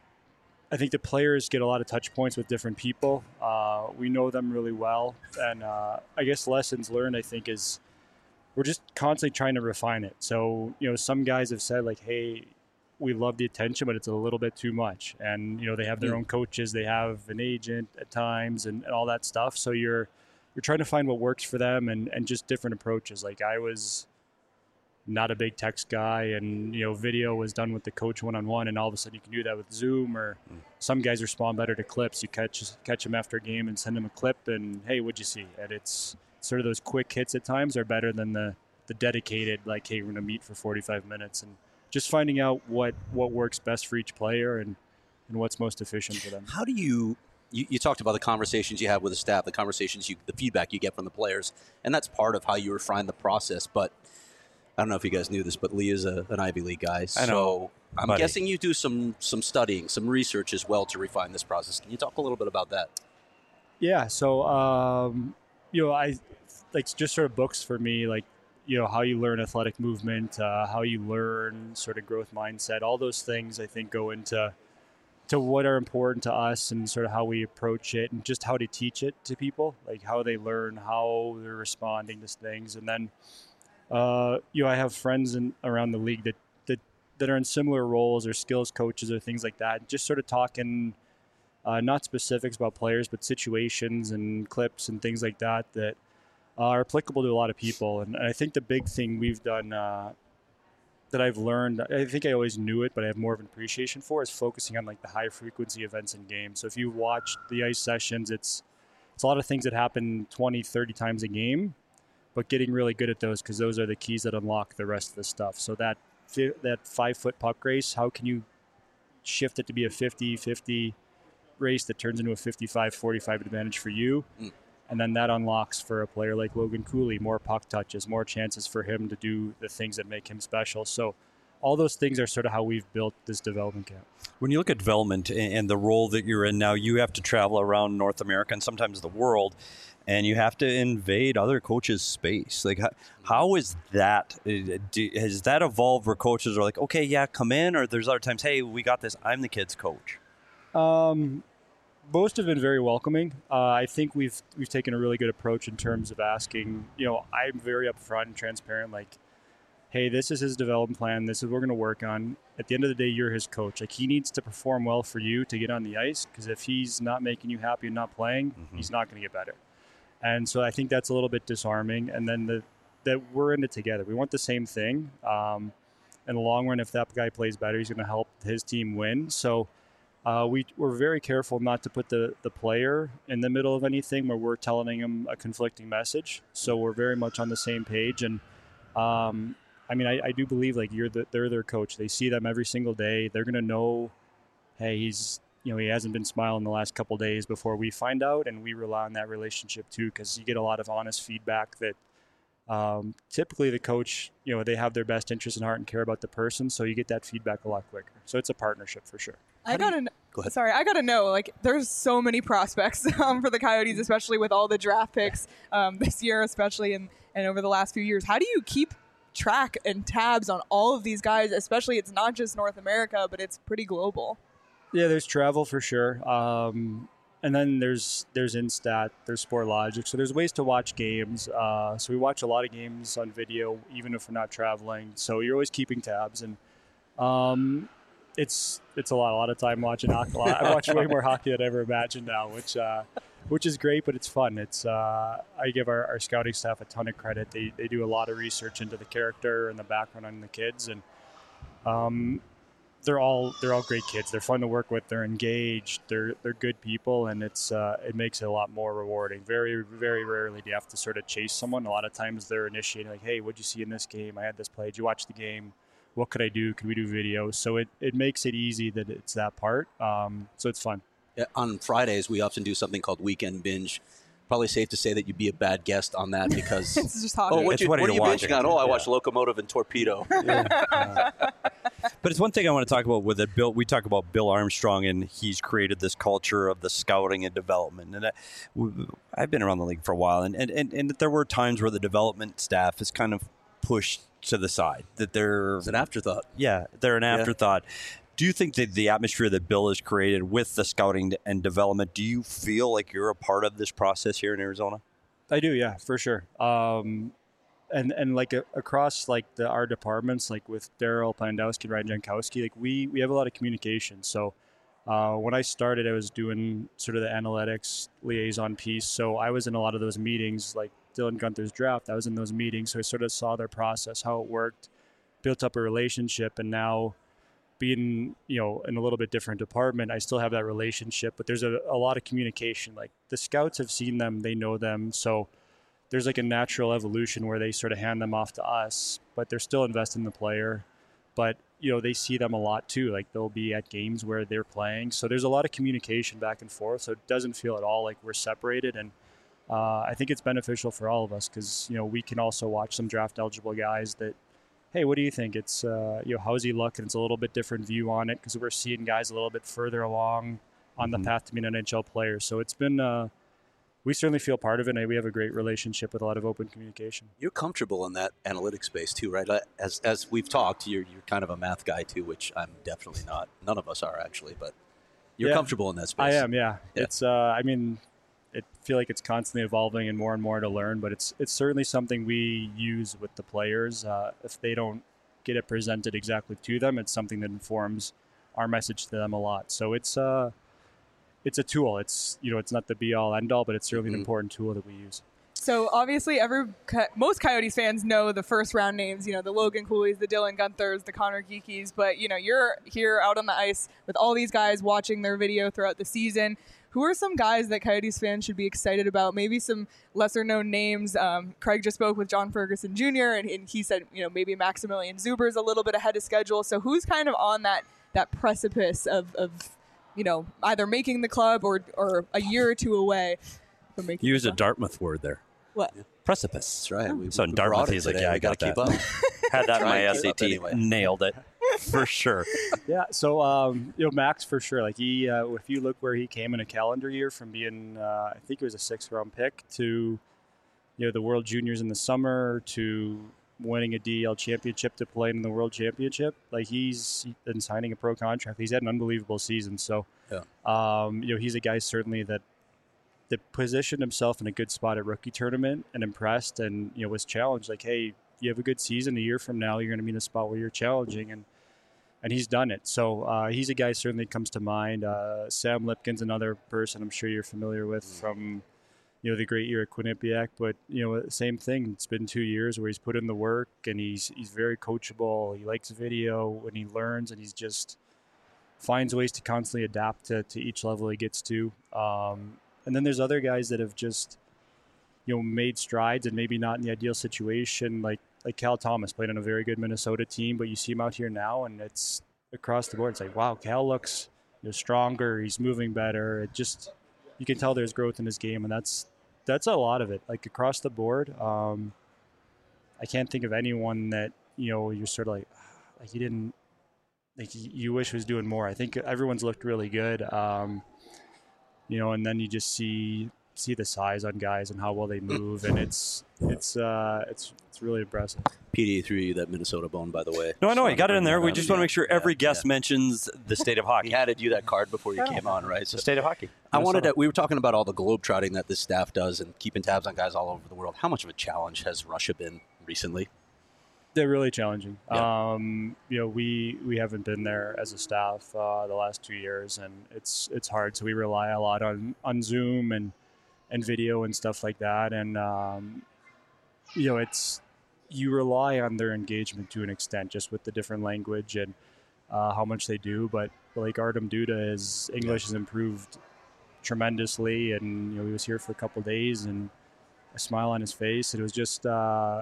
I think the players get a lot of touch points with different people. Uh, we know them really well, and uh, I guess lessons learned, I think, is we're just constantly trying to refine it. So, you know, some guys have said like, hey, we love the attention, but it's a little bit too much. And, you know, they have their Mm. own coaches, they have an agent at times and, and all that stuff. So you're you're trying to find what works for them and, and just different approaches. Like I was not a big text guy, and you know video was done with the coach one-on-one, and all of a sudden you can do that with Zoom, or some guys respond better to clips. You catch catch them after a game and send them a clip and hey, what'd you see? And it's sort of those quick hits at times are better than the the dedicated like, hey, we're gonna meet for forty-five minutes, and just finding out what what works best for each player and and what's most efficient for them. How do you, you, you talked about the conversations you have with the staff, the conversations you, the feedback you get from the players, and that's part of how you refine the process. But I don't know if you guys knew this, but Lee is a, an Ivy League guy. I know, So I'm buddy. guessing you do some some studying, some research as well to refine this process. Can you talk a little bit about that? Yeah, so um, you know, I like just sort of books for me, like you know how you learn athletic movement, uh, how you learn sort of growth mindset, all those things I think go into to what are important to us and sort of how we approach it and just how to teach it to people, like how they learn, how they're responding to things, and then uh, you know I have friends in around the league that that that are in similar roles or skills coaches or things like that, just sort of talking. Uh, not specifics about players, but situations and clips and things like that that are applicable to a lot of people. And I think the big thing we've done uh, that I've learned, I think I always knew it, but I have more of an appreciation for, is focusing on like the high frequency events in games. So if you watch the ice sessions, it's it's a lot of things that happen twenty, thirty times a game, but getting really good at those because those are the keys that unlock the rest of the stuff. So that fi- that five foot puck race, how can you shift it to be a fifty fifty race that turns into a fifty-five forty-five advantage for you? Mm. And then that unlocks for a player like Logan Cooley more puck touches, more chances for him to do the things that make him special. So all those things are sort of how we've built this development camp. When you look at development and the role that you're in now, you have to travel around North America and sometimes the world, and you have to invade other coaches' space. Like, how, how is that? Has that evolved where coaches are like, okay, yeah, come in, or there's other times, hey, we got this, I'm the kid's coach? Um, most have been very welcoming. Uh, I think we've we've taken a really good approach in terms of asking, you know, I'm very upfront and transparent, like, hey, this is his development plan. This is what we're going to work on. At the end of the day, you're his coach. Like, he needs to perform well for you to get on the ice, because if he's not making you happy and not playing, mm-hmm. he's not going to get better. And so I think that's a little bit disarming. And then the that we're in it together. We want the same thing. Um, in the long run, if that guy plays better, he's going to help his team win. So uh, we, we're very careful not to put the, the player in the middle of anything where we're telling him a conflicting message. So we're very much on the same page. And um, I mean, I, I do believe like you're the, they're their coach. They see them every single day. They're going to know, hey, he's, you know, he hasn't been smiling the last couple of days before we find out, and we rely on that relationship too, because you get a lot of honest feedback that um, typically the coach, you know, they have their best interest in heart and care about the person, so you get that feedback a lot quicker. So it's a partnership for sure. I gotta you, go ahead. Sorry, I gotta know. Like, there's so many prospects um, for the Coyotes, especially with all the draft picks um, this year, especially and and over the last few years. How do you keep track and tabs on all of these guys? Especially, it's not just North America, but it's pretty global. Yeah, there's travel for sure. Um, and then there's there's Instat, there's Sportlogic. So there's ways to watch games. Uh, so we watch a lot of games on video, even if we're not traveling. So you're always keeping tabs. And um, it's it's a lot, a lot of time watching hockey. I watch way more hockey than I ever imagined now, which uh, which is great, but it's fun. It's uh, I give our, our scouting staff a ton of credit. They, they do a lot of research into the character and the background on the kids. And um They're all they're all great kids. They're fun to work with. They're engaged. They're they're good people, and it's uh, it makes it a lot more rewarding. Very very rarely do you have to sort of chase someone. A lot of times they're initiating, like, hey, what'd you see in this game? I had this play. Did you watch the game? What could I do? Could we do video? So it, it makes it easy that it's that part. Um, so it's fun. Yeah, on Fridays, we often do something called Weekend Binge. Probably safe to say that you'd be a bad guest on that because it's just hockey. Oh, what, It's you, what what are you you're binging watching. on? Oh, I Yeah. watched Locomotive and Torpedo. Yeah. But it's one thing I want to talk about with it. Bill, we talk about Bill Armstrong, and he's created this culture of the scouting and development. And I, I've been around the league for a while, and, and, and, and there were times where the development staff is kind of pushed to the side. That they're It's an afterthought. Yeah, they're an afterthought. Do you think that the atmosphere that Bill has created with the scouting and development, do you feel like you're a part of this process here in Arizona? I do, yeah, for sure. Um, and and like a, across like the our departments, like with Daryl Pandowski and Ryan Jankowski, like we we have a lot of communication. So uh, when I started, I was doing sort of the analytics liaison piece. So I was in a lot of those meetings, like Dylan Gunther's draft. I was in those meetings, so I sort of saw their process, how it worked, built up a relationship, and now being, you know, in a little bit different department, I still have that relationship, but there's a, a lot of communication. Like the scouts have seen them, they know them. So there's like a natural evolution where they sort of hand them off to us, but they're still invested in the player. But, you know, they see them a lot too. Like they'll be at games where they're playing. So there's a lot of communication back and forth. So it doesn't feel at all like we're separated. And uh, I think it's beneficial for all of us because, you know, we can also watch some draft eligible guys that, hey, what do you think? It's, uh, you know, how's he look? And it's a little bit different view on it because we're seeing guys a little bit further along on Mm-hmm. the path to being an N H L player. So it's been, uh, we certainly feel part of it, and we have a great relationship with a lot of open communication. You're comfortable in that analytics space too, right? As as we've talked, you're you're kind of a math guy too, which I'm definitely not. None of us are actually, but you're Yeah, comfortable in that space. I am, yeah. Yeah. It's, uh, I mean, I feel like it's constantly evolving and more and more to learn, but it's it's certainly something we use with the players. Uh, if they don't get it presented exactly to them, it's something that informs our message to them a lot. So it's uh, it's a tool. It's, you know, it's not the be all end all, but it's certainly Mhm. an important tool that we use. So obviously, every most Coyotes fans know the first round names. You know, the Logan Cooleys, the Dylan Gunthers, the Connor Geekies. But you know, you're here out on the ice with all these guys watching their video throughout the season. who are some guys that Coyotes fans should be excited about? Maybe some lesser known names. Um, Craig just spoke with John Ferguson Junior and, and he said, you know, maybe Maximilian Zuber's a little bit ahead of schedule. So who's kind of on that that precipice of, of you know, either making the club or or a year or two away from making Use the a club? Dartmouth word there. What? Precipice. That's right. We, So in we Dartmouth, brought it he's like, today. yeah, We I got gotta that. keep up. Had that in Try my and S keep A up T. anyway. Nailed it. For sure. Yeah, so um, you know, Max for sure. Like he, uh, if you look where he came in a calendar year from being, uh, I think it was a sixth round pick to, you know, the World Juniors in the summer to winning a D E L championship to playing in the World Championship. Like he's been signing a pro contract. He's had an unbelievable season. So, Yeah. um, you know, he's a guy certainly that that positioned himself in a good spot at rookie tournament and impressed, and you know was challenged. Like, hey, you have a good season. A year from now, you're going to be in a spot where you're challenging, and and he's done it. So uh, he's a guy certainly comes to mind. Uh, Sam Lipkin's another person I'm sure you're familiar with from, you know, the great year at Quinnipiac. But, you know, same thing. It's been two years where he's put in the work and he's he's very coachable. He likes video and he learns and he's just finds ways to constantly adapt to, to each level he gets to. Um, and then there's other guys that have just, you know, made strides and maybe not in the ideal situation, like like Cal Thomas played on a very good Minnesota team, but you see him out here now and it's across the board. It's like, wow, Cal looks, you know, stronger. He's moving better. It just, you can tell there's growth in his game, and that's that's a lot of it. Like across the board, um, I can't think of anyone that, you know, you're sort of like, like you didn't, like you wish was doing more. I think everyone's looked really good, um, you know, and then you just see see the size on guys and how well they move, and it's it's uh, it's it's really impressive. P D A threw you that Minnesota bone, by the way. No, I know. Just You got it in wanted to there. bring We that just up. want to make sure Yeah, every guest yeah. mentions the state of hockey. He handed you that card before you came on, right? So The state of hockey. I wanted Minnesota. to, we were talking about all the globetrotting that this staff does and keeping tabs on guys all over the world. How much of a challenge has Russia been recently? They're really challenging. Yeah. Um, you know, we we haven't been there as a staff uh, the last two years, and it's it's hard. So we rely a lot on, on Zoom and and video and stuff like that. And um, you know, it's you rely on their engagement to an extent, just with the different language and uh, how much they do. But like Artem Duda, his English has improved tremendously, and you know, he was here for a couple days and a smile on his face. It was just. Uh,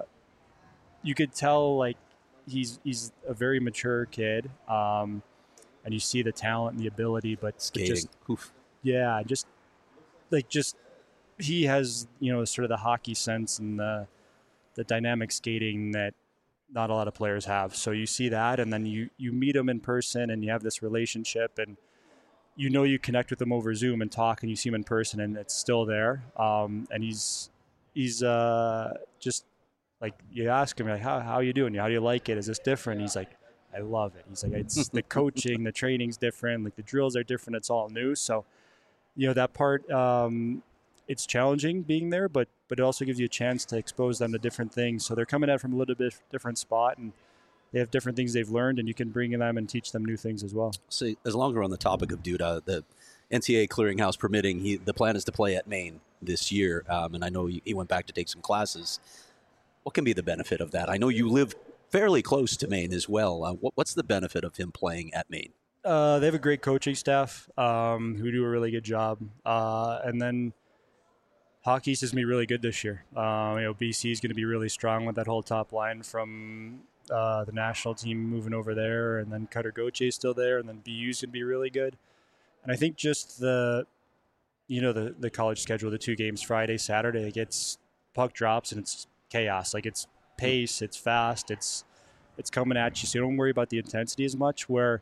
You could tell like he's he's a very mature kid, um, and you see the talent and the ability, but Skating. just Oof. yeah, just like just he has you know sort of the hockey sense and the the dynamic skating that not a lot of players have. So you see that, and then you you meet him in person, and you have this relationship, and you know you connect with him over Zoom and talk, and you see him in person, and it's still there. Um, and he's he's uh, just. Like you ask him, like, how how you doing? How do you like it? Is this different? He's like, I love it. He's like, it's the coaching, the training's different. Like the drills are different. It's all new. So, you know, that part, um, it's challenging being there, but but it also gives you a chance to expose them to different things. So they're coming at it from a little bit different spot, and they have different things they've learned, and you can bring them and teach them new things as well. So as long as we're on the topic of Duda, the N C A A clearinghouse permitting, he, the plan is to play at Maine this year. Um, and I know he went back to take some classes. What can be the benefit of that? I know you live fairly close to Maine as well. Uh, what, what's the benefit of him playing at Maine? Uh, they have a great coaching staff um, who do a really good job. Uh, and then Hockey East is going to be really good this year. Um, you know, B C is going to be really strong with that whole top line from uh, the national team moving over there, and then Cutter Gauthier is still there, and then B U is going to be really good. And I think just the, you know, the, the college schedule, the two games, Friday, Saturday, it gets puck drops and it's chaos. Like it's pace, it's fast, it's it's coming at you. So you don't worry about the intensity as much. Where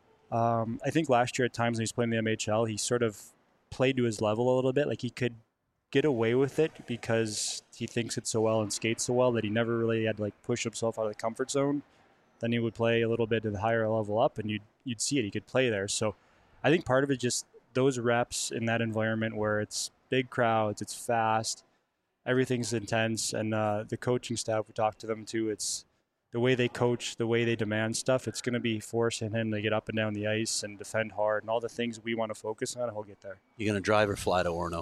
um, I think last year at times when he was playing the M H L, he sort of played to his level a little bit. Like he could get away with it because he thinks it so well and skates so well that he never really had to like push himself out of the comfort zone. Then he would play a little bit to the higher level up, and you'd you'd see it. He could play there. So I think part of it just those reps in that environment where it's big crowds, it's fast. Everything's intense, and uh, the coaching staff, we talk to them too. It's the way they coach, the way they demand stuff. It's going to be forcing him to get up and down the ice and defend hard, and all the things we want to focus on. He'll get there. You going to drive or fly to Orono?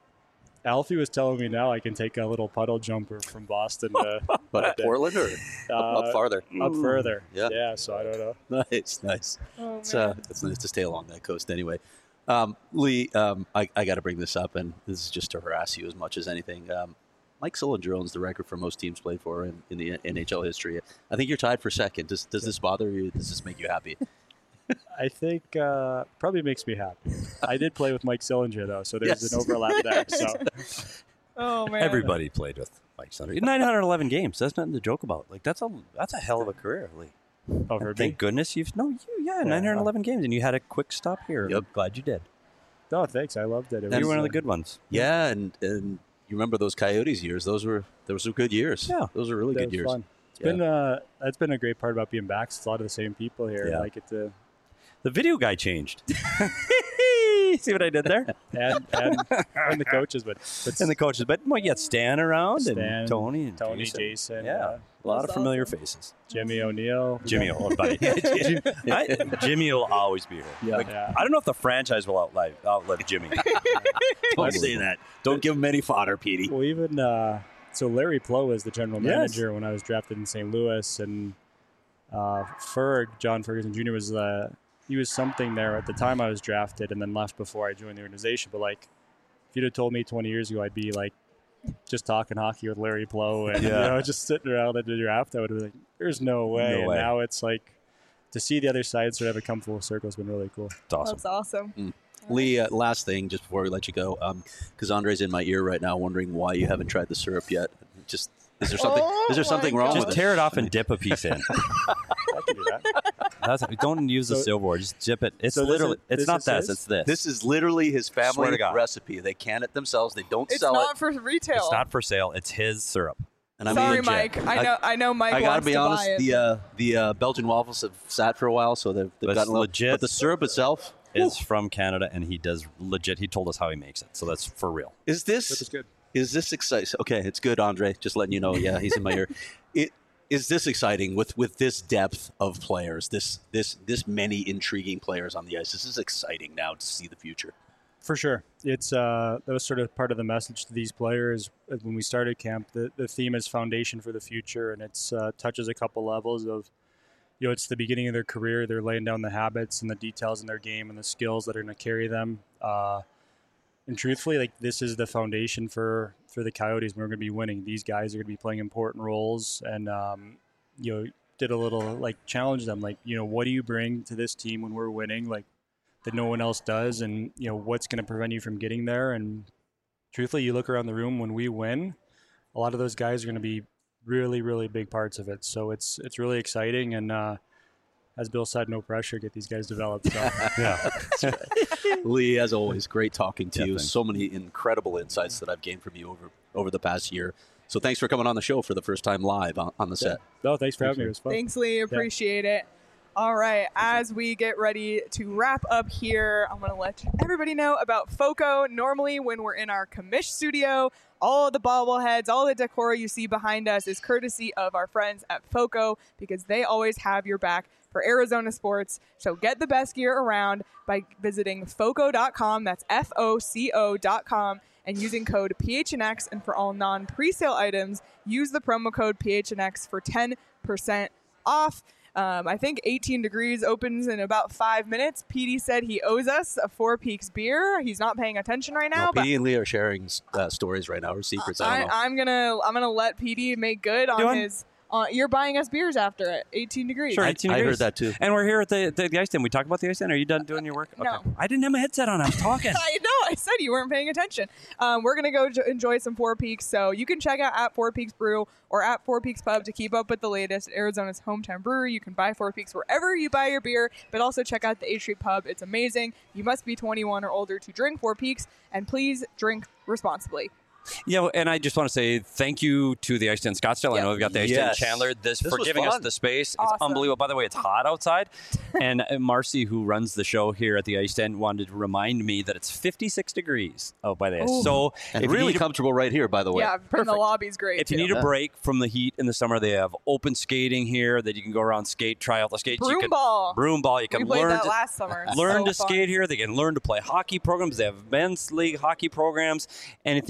Alfie was telling me now I can take a little puddle jumper from Boston to But at Portland or uh, up farther? Up further. Yeah. Yeah. So I don't know. Nice, nice. Oh, It's uh, man. it's nice to stay along that coast anyway. Um, Lee, um, I, I got to bring this up, and this is just to harass you as much as anything. Um, Mike Sillinger owns the record for most teams played for in, in the N H L history. I think you're tied for second. Does does this bother you? Does this make you happy? I think uh, probably makes me happy. I did play with Mike Sillinger though, so there's Yes. an overlap there. So Oh man. Everybody played with Mike Sunder. nine hundred eleven games. That's nothing to joke about. Like that's a that's a hell of a career, Lee. over And thank me. goodness you've no you yeah, nine hundred eleven games, and you had a quick stop here. Yep. I'm glad you did. No, thanks. I loved it. It You was were one of the uh, good ones. Yeah, and and you remember those Coyotes years? Those were those were good years. Yeah. those were really that good was years. Fun. It's Yeah. been uh, that's been a great part about being back. It's a lot of the same people here. Yeah. Like it to The video guy changed. See what I did there? and and, and the coaches, but but And the coaches, but well, you got Stan around Stan, and Tony and Tony, Jason. Jason, Yeah, uh, a lot of That's familiar awesome. faces. Jimmy O'Neill, Jimmy, oh, buddy. I, Jimmy will always be here. Yeah. Like, Yeah. I don't know if the franchise will outlive, outlive Jimmy. Don't say that. Don't give him any fodder, Petey. Well, even uh, so, Larry Plow was the general Yes. manager when I was drafted in Saint Louis, and uh, Ferg, John Ferguson Junior was uh, he was something there at the time I was drafted, and then left before I joined the organization. But like, if you'd have told me twenty years ago, I'd be like just talking hockey with Larry Plow and Yeah. you know just sitting around at the draft, I would have been like, "There's no way." No and way. now it's like to see the other side sort of have it come full circle has been really cool. It's awesome. That's awesome. Lee, uh, last thing, just before we let you go, because Andre's in my ear right now, wondering why you haven't tried the syrup yet. Just is there something? Oh is there my something wrong God. Just with it? tear it off and dip a piece in. I can do that. That's, don't use the So- silverware. Just dip it. It's so this literally. is- it's this not is this. his? It's this. This is literally his Swear family to God. recipe. They can it themselves. They don't It's sell not it. for retail. It's not for sale. It's his syrup. And I Sorry, mean, Mike. I I- know. I know Mike I gotta wants be to honest. buy it. The uh, the uh, Belgian waffles have sat for a while, so they've, they've But gotten it's a little, legit. But the syrup itself Is from Canada, and he does legit. He told us how he makes it, so that's for real. is this Which is good. Is this exciting? Okay, it's good, Andre. Just letting you know. Yeah, he's in my ear. It is this exciting with with this depth of players, this this this many intriguing players on the ice. This is exciting now to see the future. For sure. It's uh, that was sort of part of the message to these players uh, when we started camp. The, the theme is foundation for the future, and it's uh, touches a couple levels of, you know, it's the beginning of their career. They're laying down the habits and the details in their game and the skills that are going to carry them. Uh, and truthfully, like this is the foundation for, for the Coyotes. We're going to be winning. These guys are going to be playing important roles, and um, you know, did a little like challenge them, like, you know, what do you bring to this team when we're winning, like that no one else does, and you know what's going to prevent you from getting there. And truthfully, you look around the room when we win, a lot of those guys are going to be really, really big parts of it. So it's it's really exciting, and uh, as Bill said, no pressure, get these guys developed. So. Yeah. Lee, as always, great talking to Yeah, you. thanks. So many incredible insights that I've gained from you over over the past year. So thanks for coming on the show for the first time live on, on the set. No, thanks for having me. It was fun. Thanks, Lee. Appreciate it. All right. As we get ready to wrap up here, I'm going to let everybody know about FOCO. Normally, when we're in our commish studio, all of the bobbleheads, all the decor you see behind us is courtesy of our friends at FOCO, because they always have your back for Arizona sports. So get the best gear around by visiting foco dot com. That's F O C O dot com. And using code P H N X. And for all non-presale items, use the promo code P H N X for ten percent off. Um, I think eighteen Degrees opens in about five minutes. Petey said he owes us a Four Peaks beer. He's not paying attention right now, No, but Petey and Lee are sharing uh, stories right now, or secrets. I I, don't know. I'm gonna I'm gonna let Petey make good on Doing- his. Uh, you're buying us beers after it. eighteen Degrees. Sure, I- eighteen I heard degrees. that too. And we're here at the, the, the ice den. We talked about the ice den. Are you done doing your work? No. Okay. I didn't have my headset on. I was talking. I know. I said you weren't paying attention. Um, we're gonna go j- enjoy some Four Peaks. So you can check out at Four Peaks Brew or at Four Peaks Pub to keep up with the latest. Arizona's hometown brewery. You can buy Four Peaks wherever you buy your beer, but also check out the H Street Pub. It's amazing. You must be twenty-one or older to drink Four Peaks, and please drink responsibly. Yeah, well, and I just want to say thank you to the Ice Den Scottsdale. I Yeah. know we've got the Ice Yes. Den Chandler this, This for was giving us fun. the space. Awesome. It's unbelievable. By the way, it's hot outside. and uh, Marcy, who runs the show here at the Ice Den, wanted to remind me that it's fifty-six degrees out by the ice. Ooh. So and if you really need a- comfortable right here, by the way. Yeah, and the Perfect. lobby's great. if you too. need a break from the heat in the summer, they have open skating here that you can go around, skate, try out the skates. you broom can, ball. Broom ball. You We can played learn that to, last summer. It's learn so to fun. skate here. They can learn to play hockey programs. They have men's league hockey programs. Anything you need to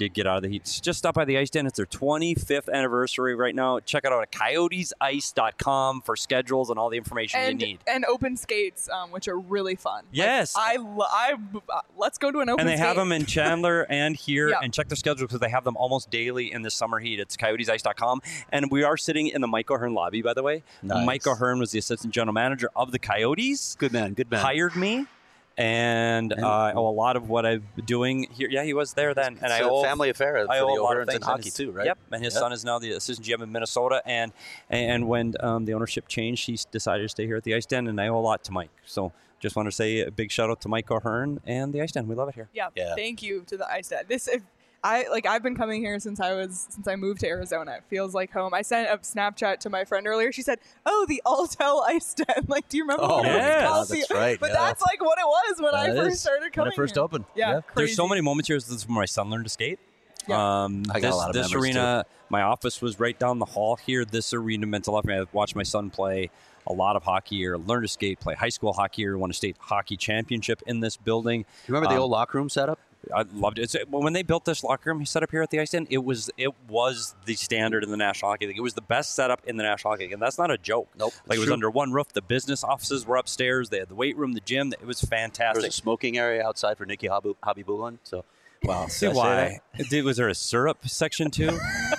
to get out of the heat, just stop by the Ice Den. It's their twenty-fifth anniversary right now. Check it out at coyotes ice dot com for schedules and all the information and, you need. And open skates, um, which are really fun. Yes. Like, I, lo- I, uh, let's go to an open And they skate. have them in Chandler and here. Yeah. And check their schedule because they have them almost daily in the summer heat. It's coyotes ice dot com. And we are sitting in the Mike O'Hearn lobby, by the way. Nice. Mike O'Hearn was the assistant general manager of the Coyotes. Good man, good man. Hired me. And, And- uh, I owe a lot of what I've been doing here. Yeah, he was there then. It's and I a owe, family affair for I the owe a lot of O'Hearns in things. hockey And his- too, right? Yep. And his Yep. son is now the assistant G M in Minnesota. And and when um, the ownership changed, he decided to stay here at the Ice Den. And I owe a lot to Mike. So just want to say a big shout out to Mike O'Hearn and the Ice Den. We love it here. Yeah, Yeah. thank you to the Ice Den. This, if I like, I've been coming here since I was since I moved to Arizona. It feels like home. I sent a Snapchat to my friend earlier. She said, "Oh, the Alltel Ice Den." Like, do you remember? Oh, when it was yes. called that's the- right, But yeah. that's like what it was when I That first is started coming. when it first here. opened. Yeah, Yeah. There's so crazy. many moments here. This is where my son learned to skate. Yeah. Um, I got this, a lot of this memories, arena, my office was right down the hall here. This arena meant a lot for me. I watched my son play a lot of hockey here, learn to skate, play high school hockey here, won a state hockey championship in this building. You remember the Um, old locker room setup? I loved it. It's, when they built this locker room set up here at the Ice Den, it was it was the standard in the National Hockey League. It was the best setup in the National Hockey League, and that's not a joke. Nope, Like it's it was true. under one roof. The business offices were upstairs. They had the weight room, the gym. It was There fantastic. was a smoking area outside for Nikki Habu- Habibulin. So, wow. See Did I say why? Did, was there a syrup section too?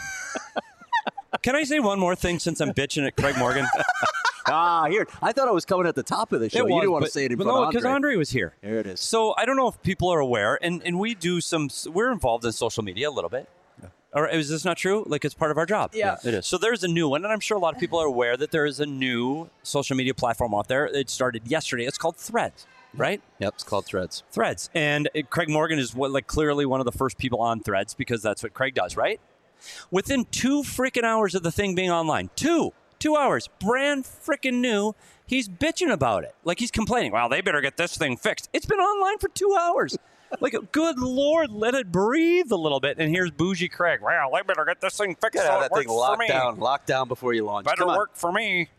Can I say one more thing since I'm bitching at Craig Morgan? that? Ah, here. I thought I was coming at the top of the show. It you was, didn't want to but- say it in but front no, of because Andre. Andre was here. Here it is. So I don't know if people are aware, and, and we do some. We're involved in social media a little bit. Or is this not true? Like it's part of our job. Yeah. It is. So there's a new one, and I'm sure a lot of people are aware that there is a new social media platform out there. It started yesterday. It's called Threads, right? Yep, it's called Threads. Threads, and it, Craig Morgan is what, like clearly one of the first people on Threads because that's what Craig does, right? Within two freaking hours of the thing being online, two, two hours, brand freaking new. He's bitching about it, like he's complaining. Well, they better get this thing fixed. It's been online for two hours. Like, good Lord, let it breathe a little bit. And here's Bougie Craig. Well, they better get this thing fixed. Gotta so have it that thing works for locked me. down, locked down before you launch. Better Come on. work for me.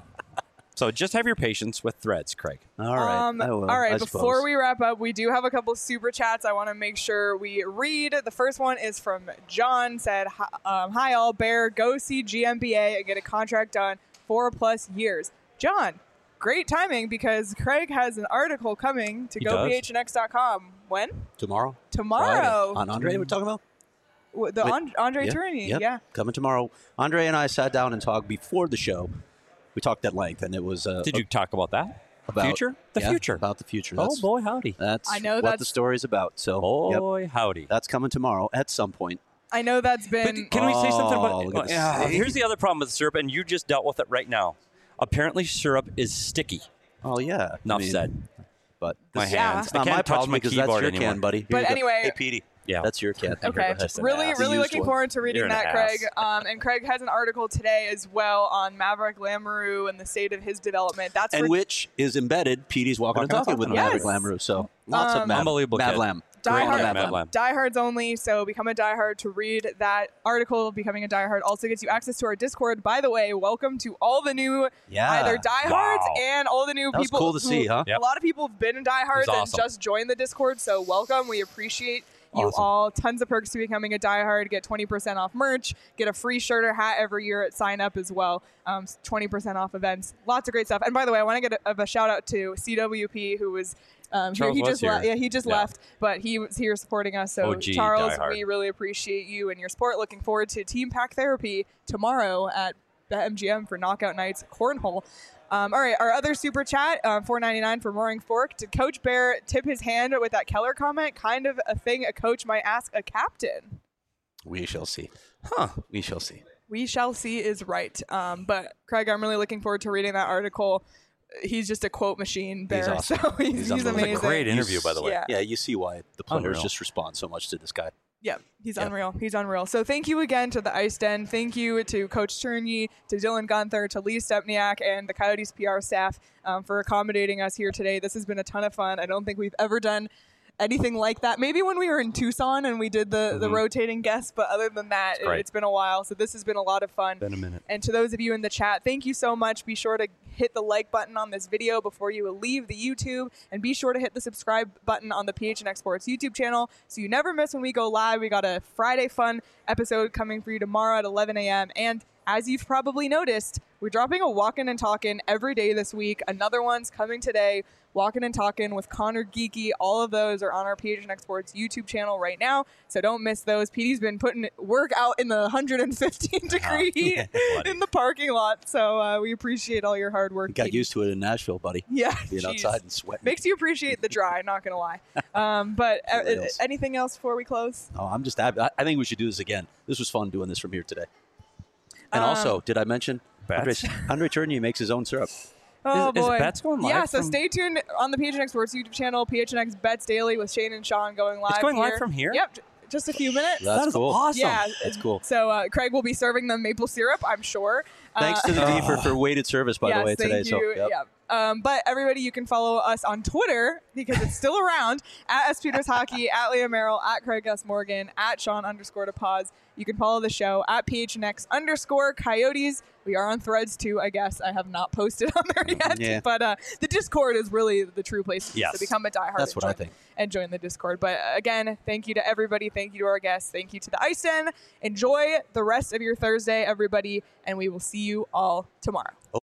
So just have your patience with Threads, Craig. All right. Um, I will, all right, I before suppose. we wrap up, we do have a couple super chats I want to make sure we read. The first one is from John, said, "Hi- um, Hi all, Bear, go see G M B A and get a contract done four plus years. John, great timing because Craig has an article coming to He go does? p h n x dot com. When? Tomorrow? Tomorrow. Friday. On Andre, we're talking about? W- The With- An- Andre yeah, Tourney, yep. yeah. Coming tomorrow. Andre and I sat down and talked before the show. We talked at length, and it was uh, Did you talk about that? about future? The yeah, future. about the future. Oh, That's, boy, howdy. That's I know what that's- the story's about. So, yep, Boy, howdy. that's coming tomorrow at some point. I know that's But been. can we say something Oh, about look at the Yeah, stain. here's the other problem with syrup, and you just dealt with it right now. Apparently, syrup is sticky. Oh yeah. Enough I mean, said. But My this- Yeah. hands. It's I not can't my touch problem my because that's keyboard your anymore. can, buddy. Here But you go. anyway- Hey, Petey. Yeah. That's your can. Okay, Just an really, ass. really Used looking one. forward to reading You're an that, ass. Craig. Um, and Craig has an article today as well on Maverick Lamoureux and the state of his development. That's And for which is embedded. Petey's walking and Walking and talking with talking. Maverick Yes. Lamoureux. So lots Um, of Mav, Unbelievable Mav kid. Lam. Die Great Hard. Mav Mav Lam. Lam. diehards only, so become a diehard to read that article. Becoming a diehard also gets you access to our Discord. By the way, welcome to all the new Yeah. either diehards Wow. and all the new That was people. cool to who- see, huh? Yep. A lot of people have been in diehards It was and awesome. just joined the Discord, so welcome. We appreciate you Awesome. all. Tons of perks to becoming a diehard. Get twenty percent off merch. Get a free shirt or hat every year at sign up as well. Um, twenty percent off events. Lots of great stuff. And by the way, I want to get a, a shout out to C W P, who was um, here. Charles He was just le- here. yeah, he just Yeah. left, but he was here supporting us. So O G Charles, diehard. we really appreciate you and your support. Looking forward to Team Pack Therapy tomorrow at the M G M for Knockout Nights Cornhole. Um, all right, our other super chat, uh, four ninety-nine for Roaring Fork. Did Coach Bear tip his hand with that Keller comment? Kind of a thing a coach might ask a captain. We shall see. Huh. We shall see. We shall see is right. Um, but Craig, I'm really looking forward to reading that article. He's just a quote machine, Bear. awesome. So he's, He's he's, unbelievable. amazing. It's a Great interview, by the way. Yeah. Yeah, you see why the players Unreal. just respond so much to this guy. Yeah, he's Yeah. unreal. He's unreal. So thank you again to the Ice Den. Thank you to Coach Turney, to Dylan Gunther, to Lee Stepniak, and the Coyotes P R staff um, for accommodating us here today. This has been a ton of fun. I don't think we've ever done anything like that. Maybe when we were in Tucson and we did the, Mm-hmm. the rotating guests, but other than that, it, great. it's been a while. So this has been a lot of fun. Been a minute. And to those of you in the chat, thank you so much. Be sure to hit the like button on this video before you leave the YouTube, and be sure to hit the subscribe button on the P H N X Sports YouTube channel so you never miss when we go live. We got a Friday fun episode coming for you tomorrow at eleven a.m. And as you've probably noticed, we're dropping a Walkin' and Talkin' every day this week. Another one's coming today. Walkin' and Talkin' with Connor Geeky. All of those are on our P H N X Sports YouTube channel right now, so don't miss those. P D's been putting work out in the one hundred fifteen degree heat buddy. in the parking lot, so uh, we appreciate all your hard work. Got P D. used to it in Nashville, buddy. Yeah, Being jeez. outside and sweating. Makes you appreciate the dry, not going to lie. Um, but uh, For reals. anything else before we close? Oh, I'm just happy. I, I think we should do this again. This was fun doing this from here today. And Um, also, did I mention Andre, Bats? Andre Tournier makes his own syrup? Oh, Is- is boy. Bets going live Yeah, so from- stay tuned on the P H N X Sports YouTube channel, P H N X Bets Daily with Shane and Sean going live. going live here. from here? Yep, j- just a few minutes. That's That is cool. awesome. Yeah, That's cool. So uh, Craig will be serving them maple syrup, I'm sure. Thanks Uh, to the D for, for weighted service, by yes, the way, thank today. you. So, yep. Yeah. Um, but everybody, you can follow us on Twitter because it's still around at S Peters Hockey, at Leah Merrill, at Craig S Morgan, at Sean underscore to pause. You can follow the show at P H N X underscore Coyotes. We are on Threads too, I guess. I have not posted on there yet, Yeah. but uh, the Discord is really the true place to be. Yes. So become a diehard. That's and what I join- think. And join the Discord. But uh, again, thank you to everybody. Thank you to our guests. Thank you to the Ice Den. Enjoy the rest of your Thursday, everybody, and we will see you all tomorrow.